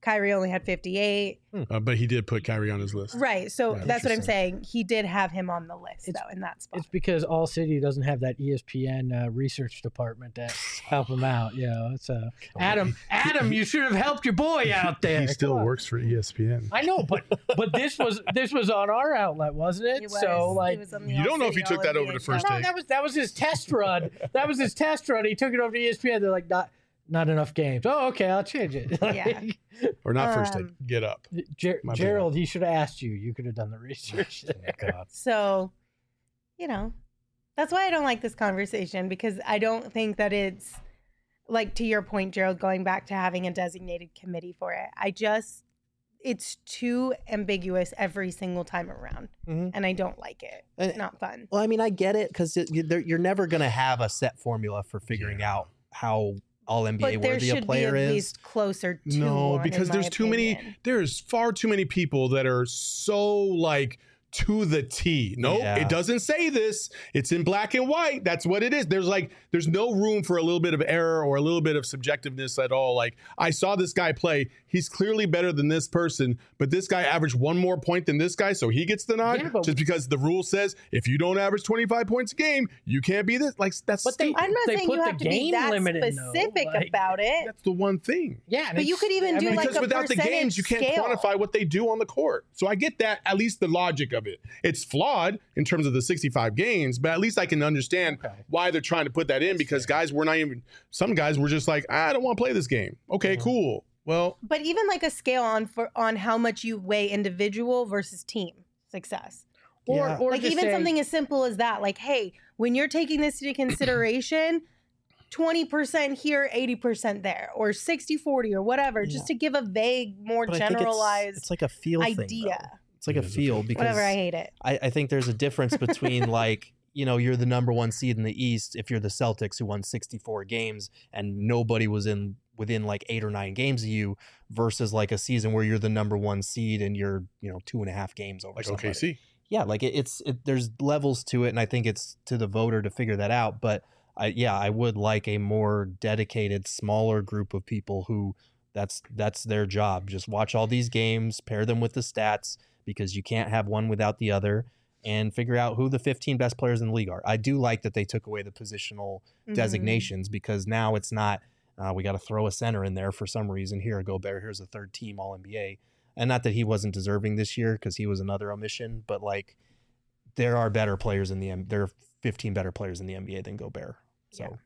Kyrie only had fifty-eight. Uh, but he did put Kyrie on his list. Right. So Yeah, that's what I'm interesting. saying. He did have him on the list, It's- though, in that spot. It's because All City doesn't have that E S P N uh, research department that help him out. You know, it's uh, Adam. Adam, you should have helped your boy out there. He still Come on. works for E S P N. I know, but but this was this was on our outlet, wasn't it? He was. So He like, was on the You don't know if All-City he took that over All-N B A the first show. no, take. that was that was his test run. That was his test run. He took it over to E S P N. They're like, not not enough games. Oh, okay, I'll change it. Yeah. Or not first take. Um, Get up. Ger- My bad. Gerald, he should have asked you. You could have done the research. God. So, you know, that's why I don't like this conversation, because I don't think that it's like, to your point, Gerald, going back to having a designated committee for it. I just, it's too ambiguous every single time around. Mhm. And I don't like it. It's And- not fun. Well, I mean, I get it because you're never going to have a set formula for figuring out how all N B A But there worthy a should be player at is. least closer to No, one, because in my there's too many. opinion. There's far too many people that are so like to the T. No, Yeah. it doesn't say this. It's in black and white. That's what it is. There's like, there's no room for a little bit of error or a little bit of subjectiveness at all. Like, I saw this guy play. He's clearly better than this person, but this guy averaged one more point than this guy, so he gets the nod Yeah, but- just because the rule says if you don't average twenty-five points a game, you can't be this. Like, that's But they- stupid. I'm not They saying put you the have to be game that limit in, though, specific like- about it. That's the one thing. Yeah, and But you it's- could even I do mean, like Because a without the percentage games, you can't scale. quantify what they do on the court. So I get that, at least the logic of it. It's flawed in terms of the sixty-five games, but at least I can understand Okay. why they're trying to put that in, because guys were not even, some guys were just like, I don't want to play this game. Okay, Mhm. cool. Well, But even like a scale on for on how much you weigh individual versus team success. or, Yeah. or Like just even say- something as simple as that. Like, hey, when you're taking this into consideration, twenty percent here, eighty percent there, or sixty forty or whatever, just to give a vague, more But I think it's- generalized It's, like a feel thing. idea. though. It's like It a is a feel feel. because Whatever, I hate it. I, I think there's a difference between like, you know, you're the number one seed in the East if you're the Celtics who won sixty-four games and nobody was in within like eight or nine games of you versus like a season where you're the number one seed and you're, you know, two and a half games over like somebody. O K C. Yeah, like it, it's it, there's levels to it, and I think it's to the voter to figure that out. But I, yeah, I would like a more dedicated, smaller group of people who that's that's their job. Just watch all these games, pair them with the stats because you can't have one without the other, and figure out who the fifteen best players in the league are. I do like that they took away the positional Mhm. designations because now it's not uh, we got to throw a center in there for some reason. Here, Gobert, here's a third team All N B A. And not that he wasn't deserving this year because he was another omission, but like there are better players in the M- there are fifteen better players in the N B A than Gobert. So Yeah.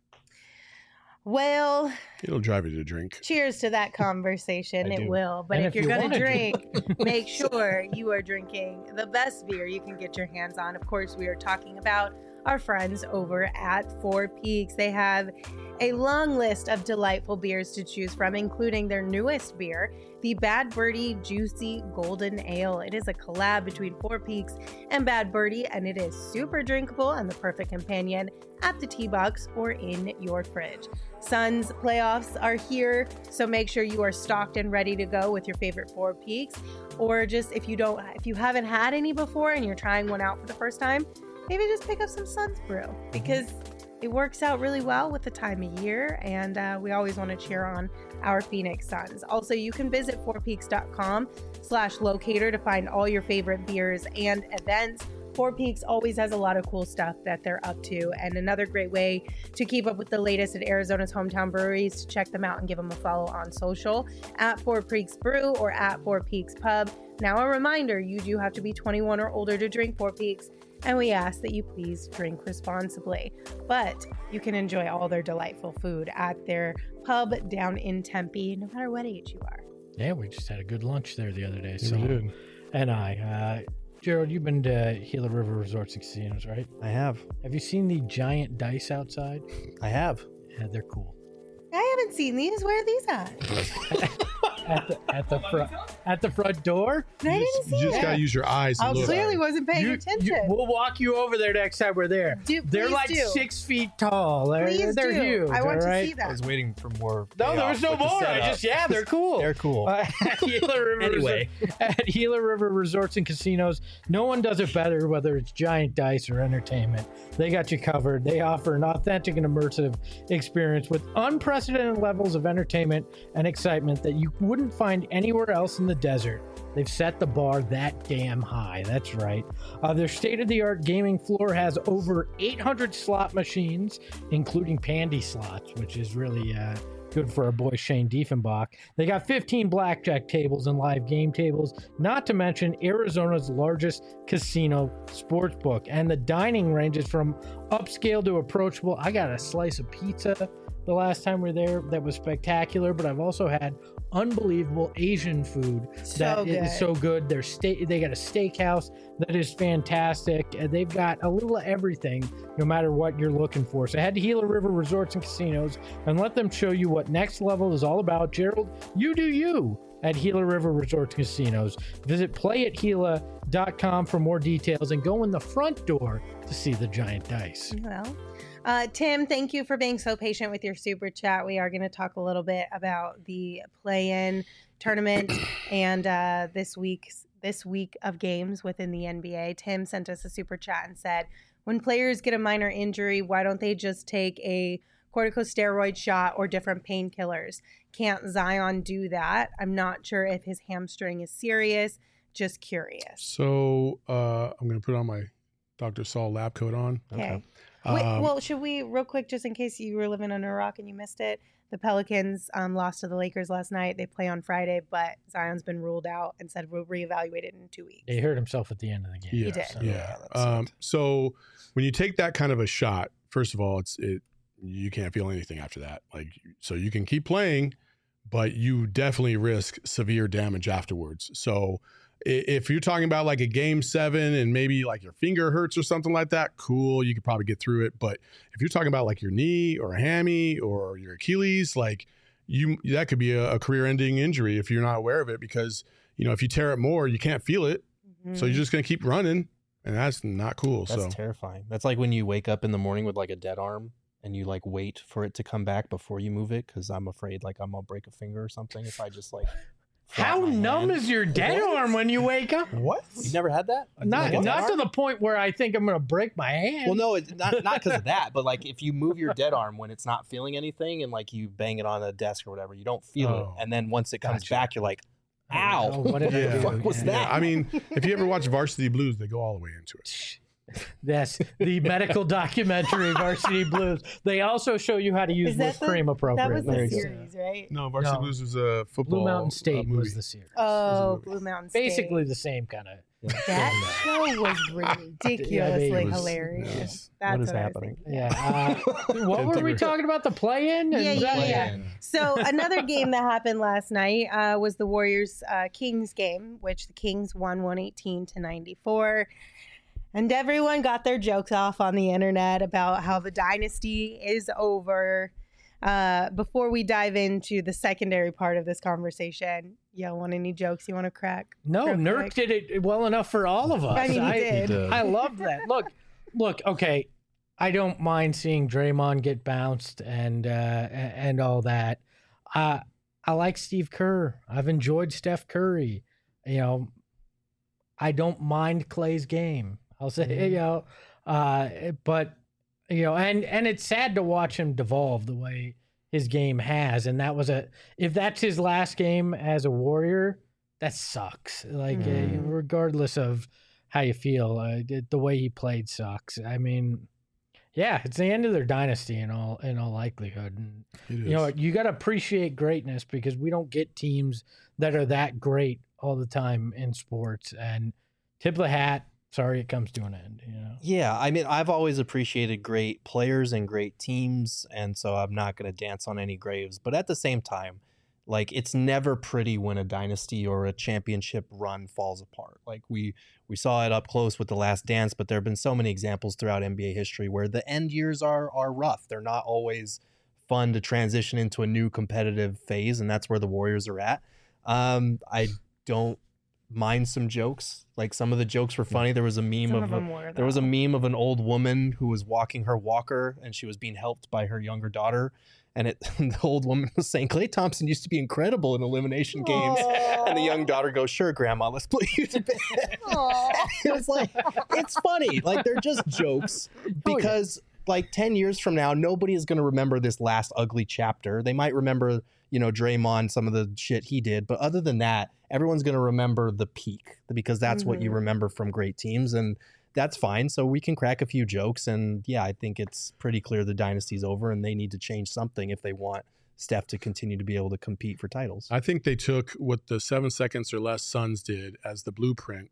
Well, It'll drive you to drink. cheers to that conversation. I It do. will. But And if, if you're you going to wanna drink, make sure you are drinking the best beer you can get your hands on. Of course, we are talking about our friends over at Four Peaks. They have a long list of delightful beers to choose from, including their newest beer, the Bad Birdie Juicy Golden Ale. It is a collab between Four Peaks and Bad Birdie, and it is super drinkable and the perfect companion at the tea box or in your fridge. Suns playoffs are here, so make sure you are stocked and ready to go with your favorite Four Peaks. Or just if you don't, if you haven't had any before and you're trying one out for the first time, maybe just pick up some Suns Brew because it works out really well with the time of year, and uh, we always want to cheer on our Phoenix Suns. Also, you can visit four peaks dot com slash locator to find all your favorite beers and events. Four Peaks always has a lot of cool stuff that they're up to, and another great way to keep up with the latest at Arizona's hometown breweries, to check them out and give them a follow on social at Four Peaks Brew or at Four Peaks Pub. Now, a reminder, you do have to be twenty-one or older to drink Four Peaks, and we ask that you please drink responsibly. But you can enjoy all their delightful food at their pub down in Tempe, no matter what age you are. Yeah, we just had a good lunch there the other day. Yeah, So, we did. and I, uh, Gerald, you've been to Gila River Resorts and Casinos, right? I have. Have you seen the giant dice outside? I have. Yeah, they're cool. I haven't seen these. Where are these at? At the at the front at the front door. I You didn't just, see you just it. gotta use your eyes. I And look. clearly wasn't paying You- attention. you- we'll walk you over there next time we're there. Do- They're please like do. six feet tall. They're, Please they're do. huge. I want all to right? see I that. was waiting for more. No, there payoff was no with the more. I setup. just yeah, they're cool. They're cool. Uh, at Gila River Anyway. Resort- at Gila River Resorts and Casinos, no one does it better, whether it's giant dice or entertainment. They got you covered. They offer an authentic and immersive experience with unprecedented levels of entertainment and excitement that you wouldn't wouldn't find anywhere else in the desert. They've set the bar that damn high. That's right. Uh, their state-of-the-art gaming floor has over eight hundred slot machines, including Pandy slots, which is really uh, good for our boy Shane Diefenbach. They got fifteen blackjack tables and live game tables, not to mention Arizona's largest casino sportsbook. And the dining ranges from upscale to approachable. I got a slice of pizza the last time we were there that was spectacular, but I've also had unbelievable Asian food So that good. is so good. They're sta- they got a steakhouse that is fantastic. And they've got a little of everything, no matter what you're looking for. So head to Gila River Resorts and Casinos and let them show you what next level is all about. Gerald, you do you at Gila River Resorts and Casinos. Visit play at gila dot com for more details and go in the front door to see the giant dice. Well, uh, Tim, thank you for being so patient with your super chat. We are going to talk a little bit about the play-in tournament and uh, this week's this week of games within the N B A. Tim sent us a super chat and said, when players get a minor injury, why don't they just take a corticosteroid shot or different painkillers? Can't Zion do that? I'm not sure if his hamstring is serious. Just curious. So uh, I'm going to put on my Doctor Saul lab coat on. Okay. Wait, Um, well, should we, real quick, just in case you were living under a rock and you missed it, the Pelicans um, lost to the Lakers last night. They play on Friday, but Zion's been ruled out and said we'll reevaluate it in two weeks. He hurt himself at the end of the game. Yeah, He did. So- yeah. that Um, sucked. so when you take that kind of a shot, first of all, it's it you can't feel anything after that. Like, so you can keep playing, but you definitely risk severe damage afterwards. So i- if you're talking about like a game seven and maybe like your finger hurts or something like that, cool, you could probably get through it. But if you're talking about like your knee or a hammy or your Achilles, like you that could be a, a career-ending injury if you're not aware of it, because you know if you tear it more, you can't feel it. So Mhm. you're just gonna keep running, and that's not cool. That's so terrifying. That's like when you wake up in the morning with like a dead arm and you like wait for it to come back before you move it, because I'm afraid like I'm gonna break a finger or something if I just like. flap How my numb hand. is your dead What? arm when you wake up? what? You've never had that? Not, Like a dead not to arm? the point where I think I'm going to break my hand. Well, no, it's not not because of that, but like if you move your dead arm when it's not feeling anything and like you bang it on a desk or whatever, you don't feel Oh. it, and then once it comes Gotcha. back, you're like, "Ow! Oh, what did I Yeah. do? What was Yeah. that?" Yeah, I mean, if you ever watch Varsity Blues, they go all the way into it. Yes, the medical documentary Varsity Blues. They also show you how to use Is that whipped the- cream That appropriately. was the There you go. series, right? No, Varsity No. Blues is a football. Blue Mountain uh, State movie. was the series. Oh, Blue Mountain State. Basically the same kind of. That show was ridiculously it was- hilarious. yes. That's What is what I was happening? thinking. Yeah. Uh, what were we Timber. talking about? The play-in? Yeah, Is yeah, that- yeah. So another game that happened last night uh, was the Warriors uh, Kings game, which the Kings won one eighteen to ninety-four. And everyone got their jokes off on the internet about how the dynasty is over. Uh, before we dive into the secondary part of this conversation, y'all want any jokes you want to crack? No, real Nurk quick? did it well enough for all of us. I mean, he did. did. I love that. Look, look. Okay, I don't mind seeing Draymond get bounced and uh, a- and all that. Uh, I like Steve Kerr. I've enjoyed Steph Curry. You know, I don't mind Clay's game. I'll say, Mm-hmm. you know, uh, but you know, and and it's sad to watch him devolve the way his game has. And that was a if that's his last game as a Warrior, that sucks. Like, uh, Mhm. regardless of how you feel, uh, the, the way he played sucks. I mean, yeah, it's the end of their dynasty in all in all likelihood. And It you know, is. what, you got to appreciate greatness because we don't get teams that are that great all the time in sports. And tip of the hat. Sorry, it comes to an end. You know. Yeah, I mean, I've always appreciated great players and great teams, and so I'm not going to dance on any graves. But at the same time, like it's never pretty when a dynasty or a championship run falls apart. Like we we saw it up close with The Last Dance, but there have been so many examples throughout N B A history where the end years are are rough. They're not always fun to transition into a new competitive phase, and that's where the Warriors are at. Um, I don't mind some jokes. Like some of the jokes were funny. There was a meme Some of, of a- them were, there was a though. meme of an old woman who was walking her walker and she was being helped by her younger daughter. And it the old woman was saying, Klay Thompson used to be incredible in elimination games. And the young daughter goes, sure, Grandma, let's put you to bed. It was like, it's funny. Like they're just jokes because like ten years from now, nobody is going to remember this last ugly chapter. They might remember, you know, Draymond, some of the shit he did. But other than that, everyone's going to remember the peak because that's mm-hmm. what you remember from great teams. And that's fine. So we can crack a few jokes. And yeah, I think it's pretty clear the dynasty's over and they need to change something if they want Steph to continue to be able to compete for titles. I think they took what the seven seconds or less Suns did as the blueprint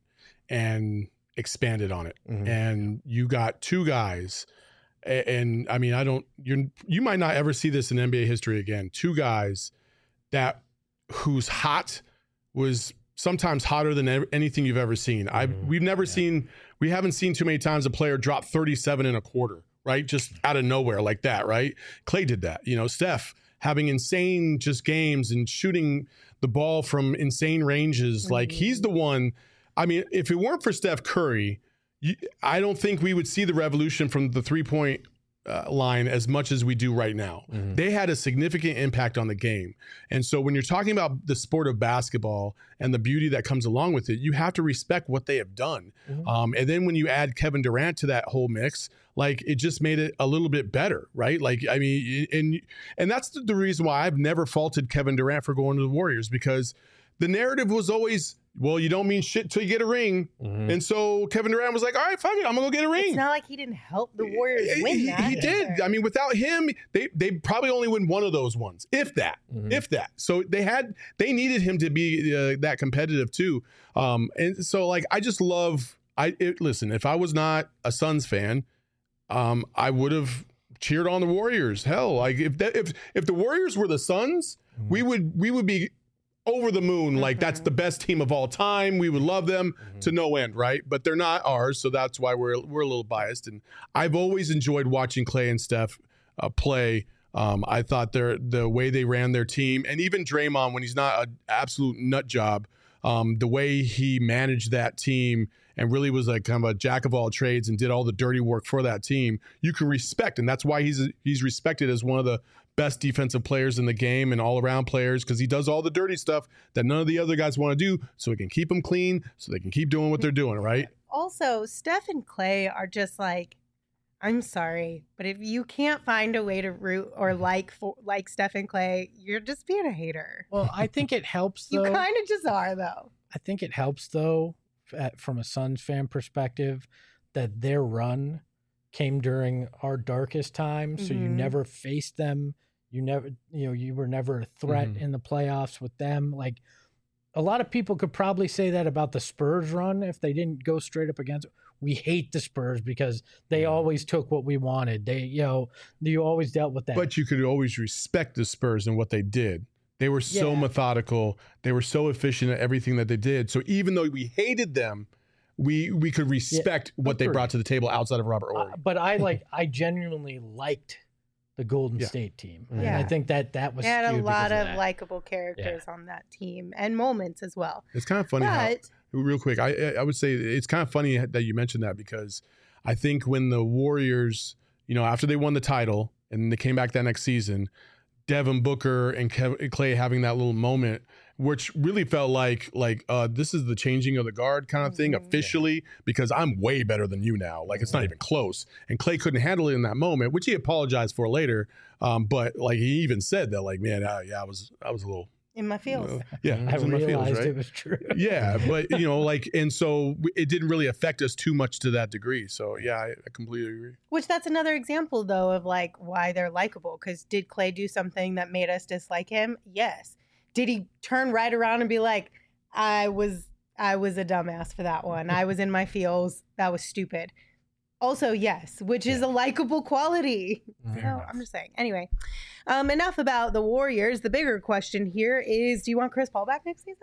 and expanded on it. Mm-hmm. And you got two guys. And, and I mean, I don't, you you might not ever see this in N B A history again. Two guys that whose hot was sometimes hotter than ever, anything you've ever seen. Mm-hmm. I we've never yeah. seen, we haven't seen too many times a player drop thirty-seven and a quarter, right? Just out of nowhere like that, right? Klay did that. You know, Steph having insane just games and shooting the ball from insane ranges. Mm-hmm. Like he's the one. I mean, if it weren't for Steph Curry, you, I don't think we would see the revolution from the three-point uh, line as much as we do right now. Mm-hmm. They had a significant impact on the game. And so when you're talking about the sport of basketball and the beauty that comes along with it, you have to respect what they have done. Mm-hmm. Um, and then when you add Kevin Durant to that whole mix, like it just made it a little bit better, right? Like, I mean, and and that's the, the reason why I've never faulted Kevin Durant for going to the Warriors, because the narrative was always, well, you don't mean shit till you get a ring. Mm-hmm. And so Kevin Durant was like, all right, fuck it, I'm going to go get a ring. It's not like he didn't help the Warriors win he, that. He did. I mean, without him, they they probably only win one of those ones, if that, mm-hmm. if that. So they had, they needed him to be uh, that competitive too. Um, and so like, I just love, I it, listen, if I was not a Suns fan, um, I would have cheered on the Warriors. Hell, like if that, if if the Warriors were the Suns, mm-hmm. we would we would be over the moon. Like, that's the best team of all time. We would love them mm-hmm. to no end, right? But they're not ours, so that's why we're we're a little biased. And I've always enjoyed watching Klay and Steph uh, play. Um, I thought their the way they ran their team, and even Draymond when he's not an absolute nut job, um, the way he managed that team and really was like kind of a jack of all trades and did all the dirty work for that team, you can respect, and that's why he's he's respected as one of the best defensive players in the game and all-around players, because he does all the dirty stuff that none of the other guys want to do, so he can keep them clean, so they can keep doing what they're doing, right? Also, Steph and Klay are just like, I'm sorry, but if you can't find a way to root or like for, like Steph and Klay, you're just being a hater. Well, I think it helps, though. You kind of just are, though. I think it helps, though, at, from a Suns fan perspective, that their run came during our darkest time, so mm-hmm. you never faced them. You never, you know, you were never a threat mm-hmm. in the playoffs with them. Like, a lot of people could probably say that about the Spurs run if they didn't go straight up against. We hate the Spurs because they yeah. always took what we wanted. They, you know, you always dealt with that. But you could always respect the Spurs and what they did. They were so yeah. methodical. They were so efficient at everything that they did. So even though we hated them, we we could respect yeah, what they brought to the table outside of Robert Horry. Uh, but I like, I genuinely liked the Golden yeah. State team. Yeah. And I think that that was They had a lot of, of likable characters yeah. on that team and moments as well. It's kind of funny but, how, real quick, I I would say it's kind of funny that you mentioned that, because I think when the Warriors, you know, after they won the title and they came back that next season, Devin Booker and Kev- Klay having that little moment, which really felt like like uh, this is the changing of the guard kind of thing mm-hmm. officially, because I'm way better than you now. Like, it's not even close. And Klay couldn't handle it in that moment, which he apologized for later. Um, but like, he even said that, like, man, uh, yeah, I was I was a little in my feels. You know, yeah, I, I was in realized my feels, right? It was true. Yeah, but you know, like, and so it didn't really affect us too much to that degree. So yeah, I, I completely agree. Which that's another example, though, of like why they're likable. Because did Klay do something that made us dislike him? Yes. Did he turn right around and be like, I was I was a dumbass for that one. I was in my feels. That was stupid. Also, yes, which is yeah. a likable quality. Fair so enough. I'm just saying. Anyway, um, enough about the Warriors. The bigger question here is, do you want Chris Paul back next season?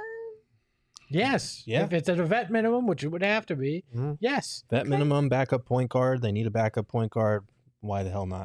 Yes. Yeah. If it's at a vet minimum, which it would have to be, mm-hmm. yes. Vet okay. minimum, backup point guard. They need a backup point guard. Why the hell not?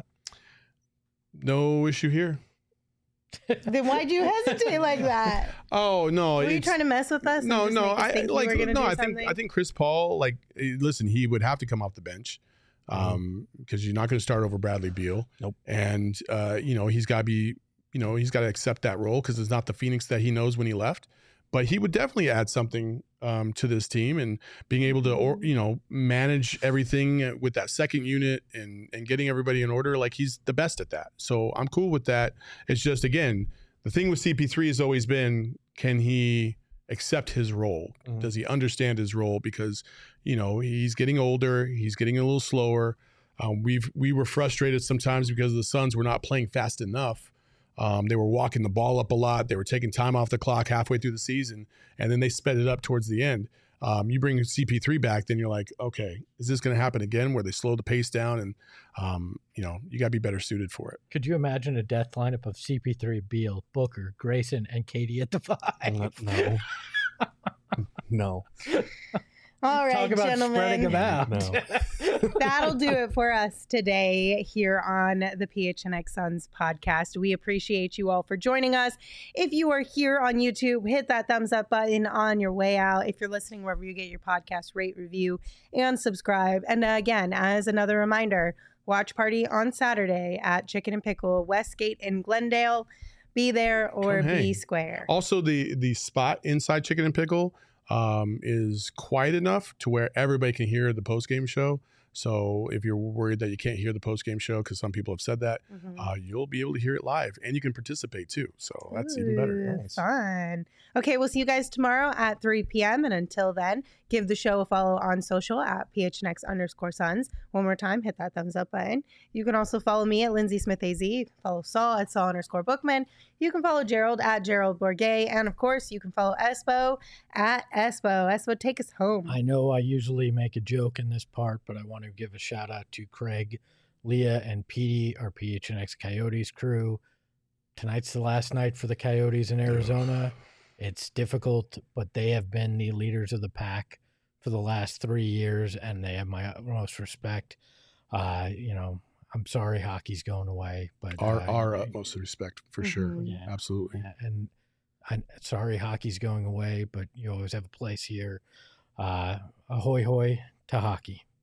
No issue here. Then why'd you hesitate like that? Oh no! Were you trying to mess with us? No, no. I think like you were no. I something? think I think Chris Paul. Like, listen, he would have to come off the bench, um, because you're not going to start over Bradley Beal. Nope. And uh, you know, he's got to be, you know, he's got to accept that role because it's not the Phoenix that he knows when he left. But he would definitely add something um, to this team, and being able to, or, you know, manage everything with that second unit and, and getting everybody in order. Like, he's the best at that. So I'm cool with that. It's just, again, the thing with C P three has always been, can he accept his role? Mm-hmm. Does he understand his role? Because, you know, he's getting older. He's getting a little slower. Um, we've, we were frustrated sometimes because the Suns were not playing fast enough. Um, they were walking the ball up a lot. They were taking time off the clock halfway through the season, and then they sped it up towards the end. Um, you bring C P three back, then you're like, okay, is this going to happen again where they slow the pace down? And, um, you know, you got to be better suited for it. Could you imagine a death lineup of C P three, Beal, Booker, Grayson, and Katie at the five? No. No. All right, Talk about gentlemen. spreading them out. No. That'll do it for us today here on the P H N X Suns podcast. We appreciate you all for joining us. If you are here on YouTube, hit that thumbs up button on your way out. If you're listening wherever you get your podcast, rate, review, and subscribe. And uh, again, as another reminder, watch party on Saturday at Chicken and Pickle, Westgate in Glendale. Be there or Come be hang. square. Also, the the spot inside Chicken and Pickle um, is quiet enough to where everybody can hear the post-game show. So if you're worried that you can't hear the post-game show, because some people have said that, Mhm. uh, you'll be able to hear it live, and you can participate too. So that's even better. Ooh, Nice. Fun. Okay, we'll see you guys tomorrow at three p.m. And until then, give the show a follow on social at P H N X underscore Suns. One more time, hit that thumbs up button. You can also follow me at Lindsay Smith A Z. You can follow Saul at Saul underscore Bookman. You can follow Gerald at Gerald Bourget. And of course, you can follow Espo at Espo. Espo, take us home. I know I usually make a joke in this part, but I want to give a shout out to Craig, Leah, and Petey, our P H N X Coyotes crew. Tonight's the last night for the Coyotes in Arizona. It's difficult, but they have been the leaders of the pack for the last three years, and they have my utmost respect. Uh, you know, I'm sorry hockey's going away, but Our, uh, our utmost respect for sure. Mhm. Yeah. Absolutely. Yeah, and I'm sorry hockey's going away, but you always have a place here. Uh, ahoy hoy to hockey.